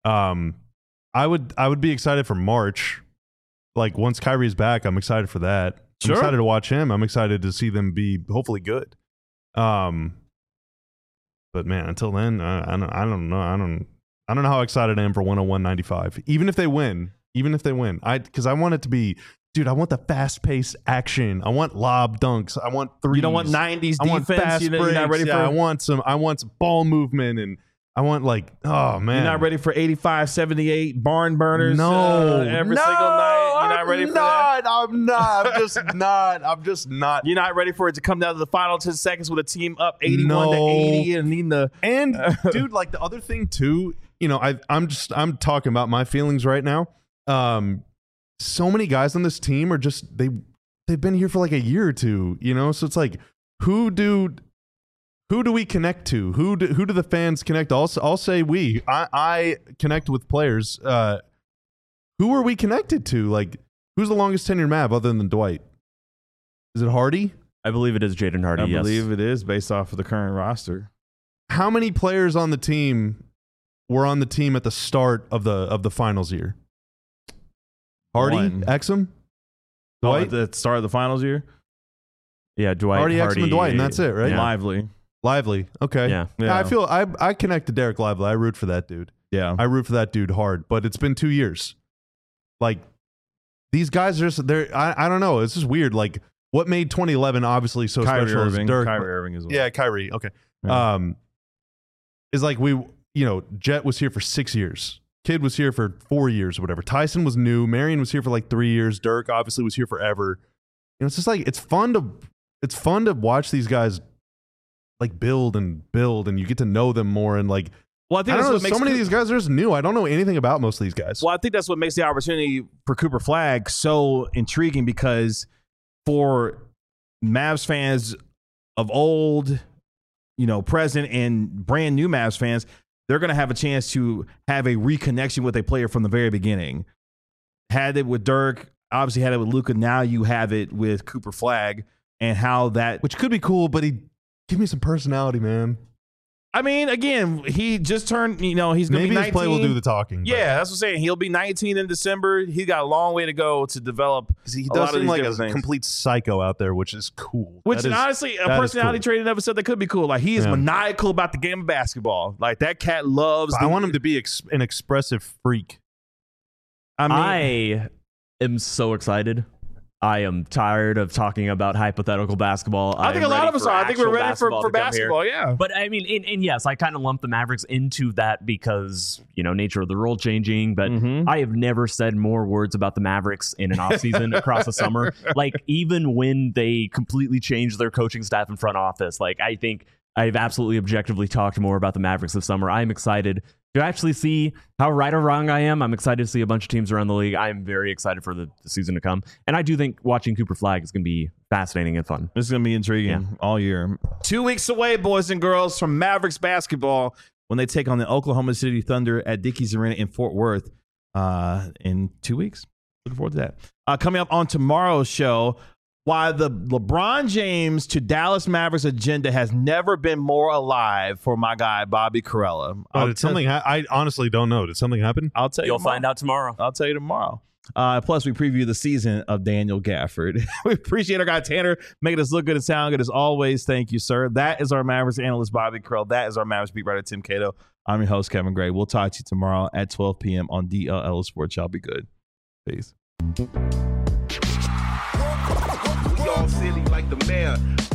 I would be excited for March. Like, once Kyrie's back, I'm excited for that. I'm excited to watch him. I'm excited to see them be hopefully good. But man, until then, I don't know. I don't know how excited I am for 101-95. Even if they win, because I want it to be, dude, I want the fast-paced action. I want lob dunks. I want threes. You don't want 90s I want defense. fast You're breaks. not ready for. I want some ball movement, and I want, like, oh man, You're not ready for 85, 78 barn burners. Every single night. You're not ready for that. I'm not. I'm just not. You're not ready for it to come down to the final 10 seconds with a team up 81-80 and needing the. And dude, like, the other thing too, I'm talking about my feelings right now. So many guys on this team are just they've been here for like a year or two, so it's like, who do we connect to? Who do the fans connect? I'll say I connect with players. Who are we connected to? Like, who's the longest tenured Mav other than Dwight? Is it Hardy? I believe it is Jaden Hardy. I yes. believe it is, based off of the current roster. How many players on the team were on the team at the start of the finals year? Hardy, Exum, Dwight. At the start of the finals year? Yeah, Dwight, Hardy, Exum, and Dwight, and that's it, right? Yeah. Lively. Okay. Yeah. I feel I connect to Derek Lively. I root for that dude. Yeah. I root for that dude hard. But it's been 2 years. Like, these guys are just, I don't know. It's just weird. Like, what made 2011 obviously so Kyrie special Irving. is Dirk. Kyrie Irving as well. Yeah, Kyrie. Okay. Yeah. Is like Jet was here for 6 years. Kid was here for 4 years or whatever. Tyson was new. Marion was here for like 3 years. Dirk obviously was here forever. It's just like, it's fun to watch these guys like build, and you get to know them more, and like, well, I think I don't know, that's what makes so many of these guys are just new. I don't know anything about most of these guys. Well, I think that's what makes the opportunity for Cooper Flagg so intriguing, because for Mavs fans of old, present, and brand new Mavs fans, they're going to have a chance to have a reconnection with a player from the very beginning. Had it with Dirk, obviously had it with Luka. Now you have it with Cooper Flagg, and how that, which could be cool, but give me some personality, man. I mean, again, he just turned, he's going to be 19. Maybe his play will do the talking. Yeah, that's what I'm saying. He'll be 19 in December. He got a long way to go to develop. He does seem like a complete psycho out there, which is cool. Which honestly, a personality trait in episode that could be cool. Like, he is maniacal about the game of basketball. Like, that cat loves. I want him to be an expressive freak. I am so excited. I am tired of talking about hypothetical basketball. I think a lot of us are. I think we're ready for basketball, yeah. But I mean, and yes, I kind of lump the Mavericks into that because, nature of the role changing. But I have never said more words about the Mavericks in an offseason across the summer. Like, even when they completely changed their coaching staff and front office, like, I think I've absolutely objectively talked more about the Mavericks this summer. I'm excited to actually see how right or wrong I am. I'm excited to see a bunch of teams around the league. I'm very excited for the season to come. And I do think watching Cooper Flag is going to be fascinating and fun. This is going to be intriguing all year. 2 weeks away, boys and girls, from Mavericks basketball when they take on the Oklahoma City Thunder at Dickies Arena in Fort Worth in 2 weeks. Looking forward to that. Coming up on tomorrow's show, why the LeBron James to Dallas Mavericks agenda has never been more alive for my guy, Bobby Karalla. Did something I honestly don't know. Did something happen? I'll tell you. You'll find out tomorrow. I'll tell you tomorrow. Plus, we preview the season of Daniel Gafford. We appreciate our guy Tanner making us look good and sound good as always. Thank you, sir. That is our Mavericks analyst, Bobby Karalla. That is our Mavericks beat writer, Tim Cato. I'm your host, Kevin Gray. We'll talk to you tomorrow at 12 p.m. on DLL Sports. Y'all be good. Peace. We all silly like the mayor.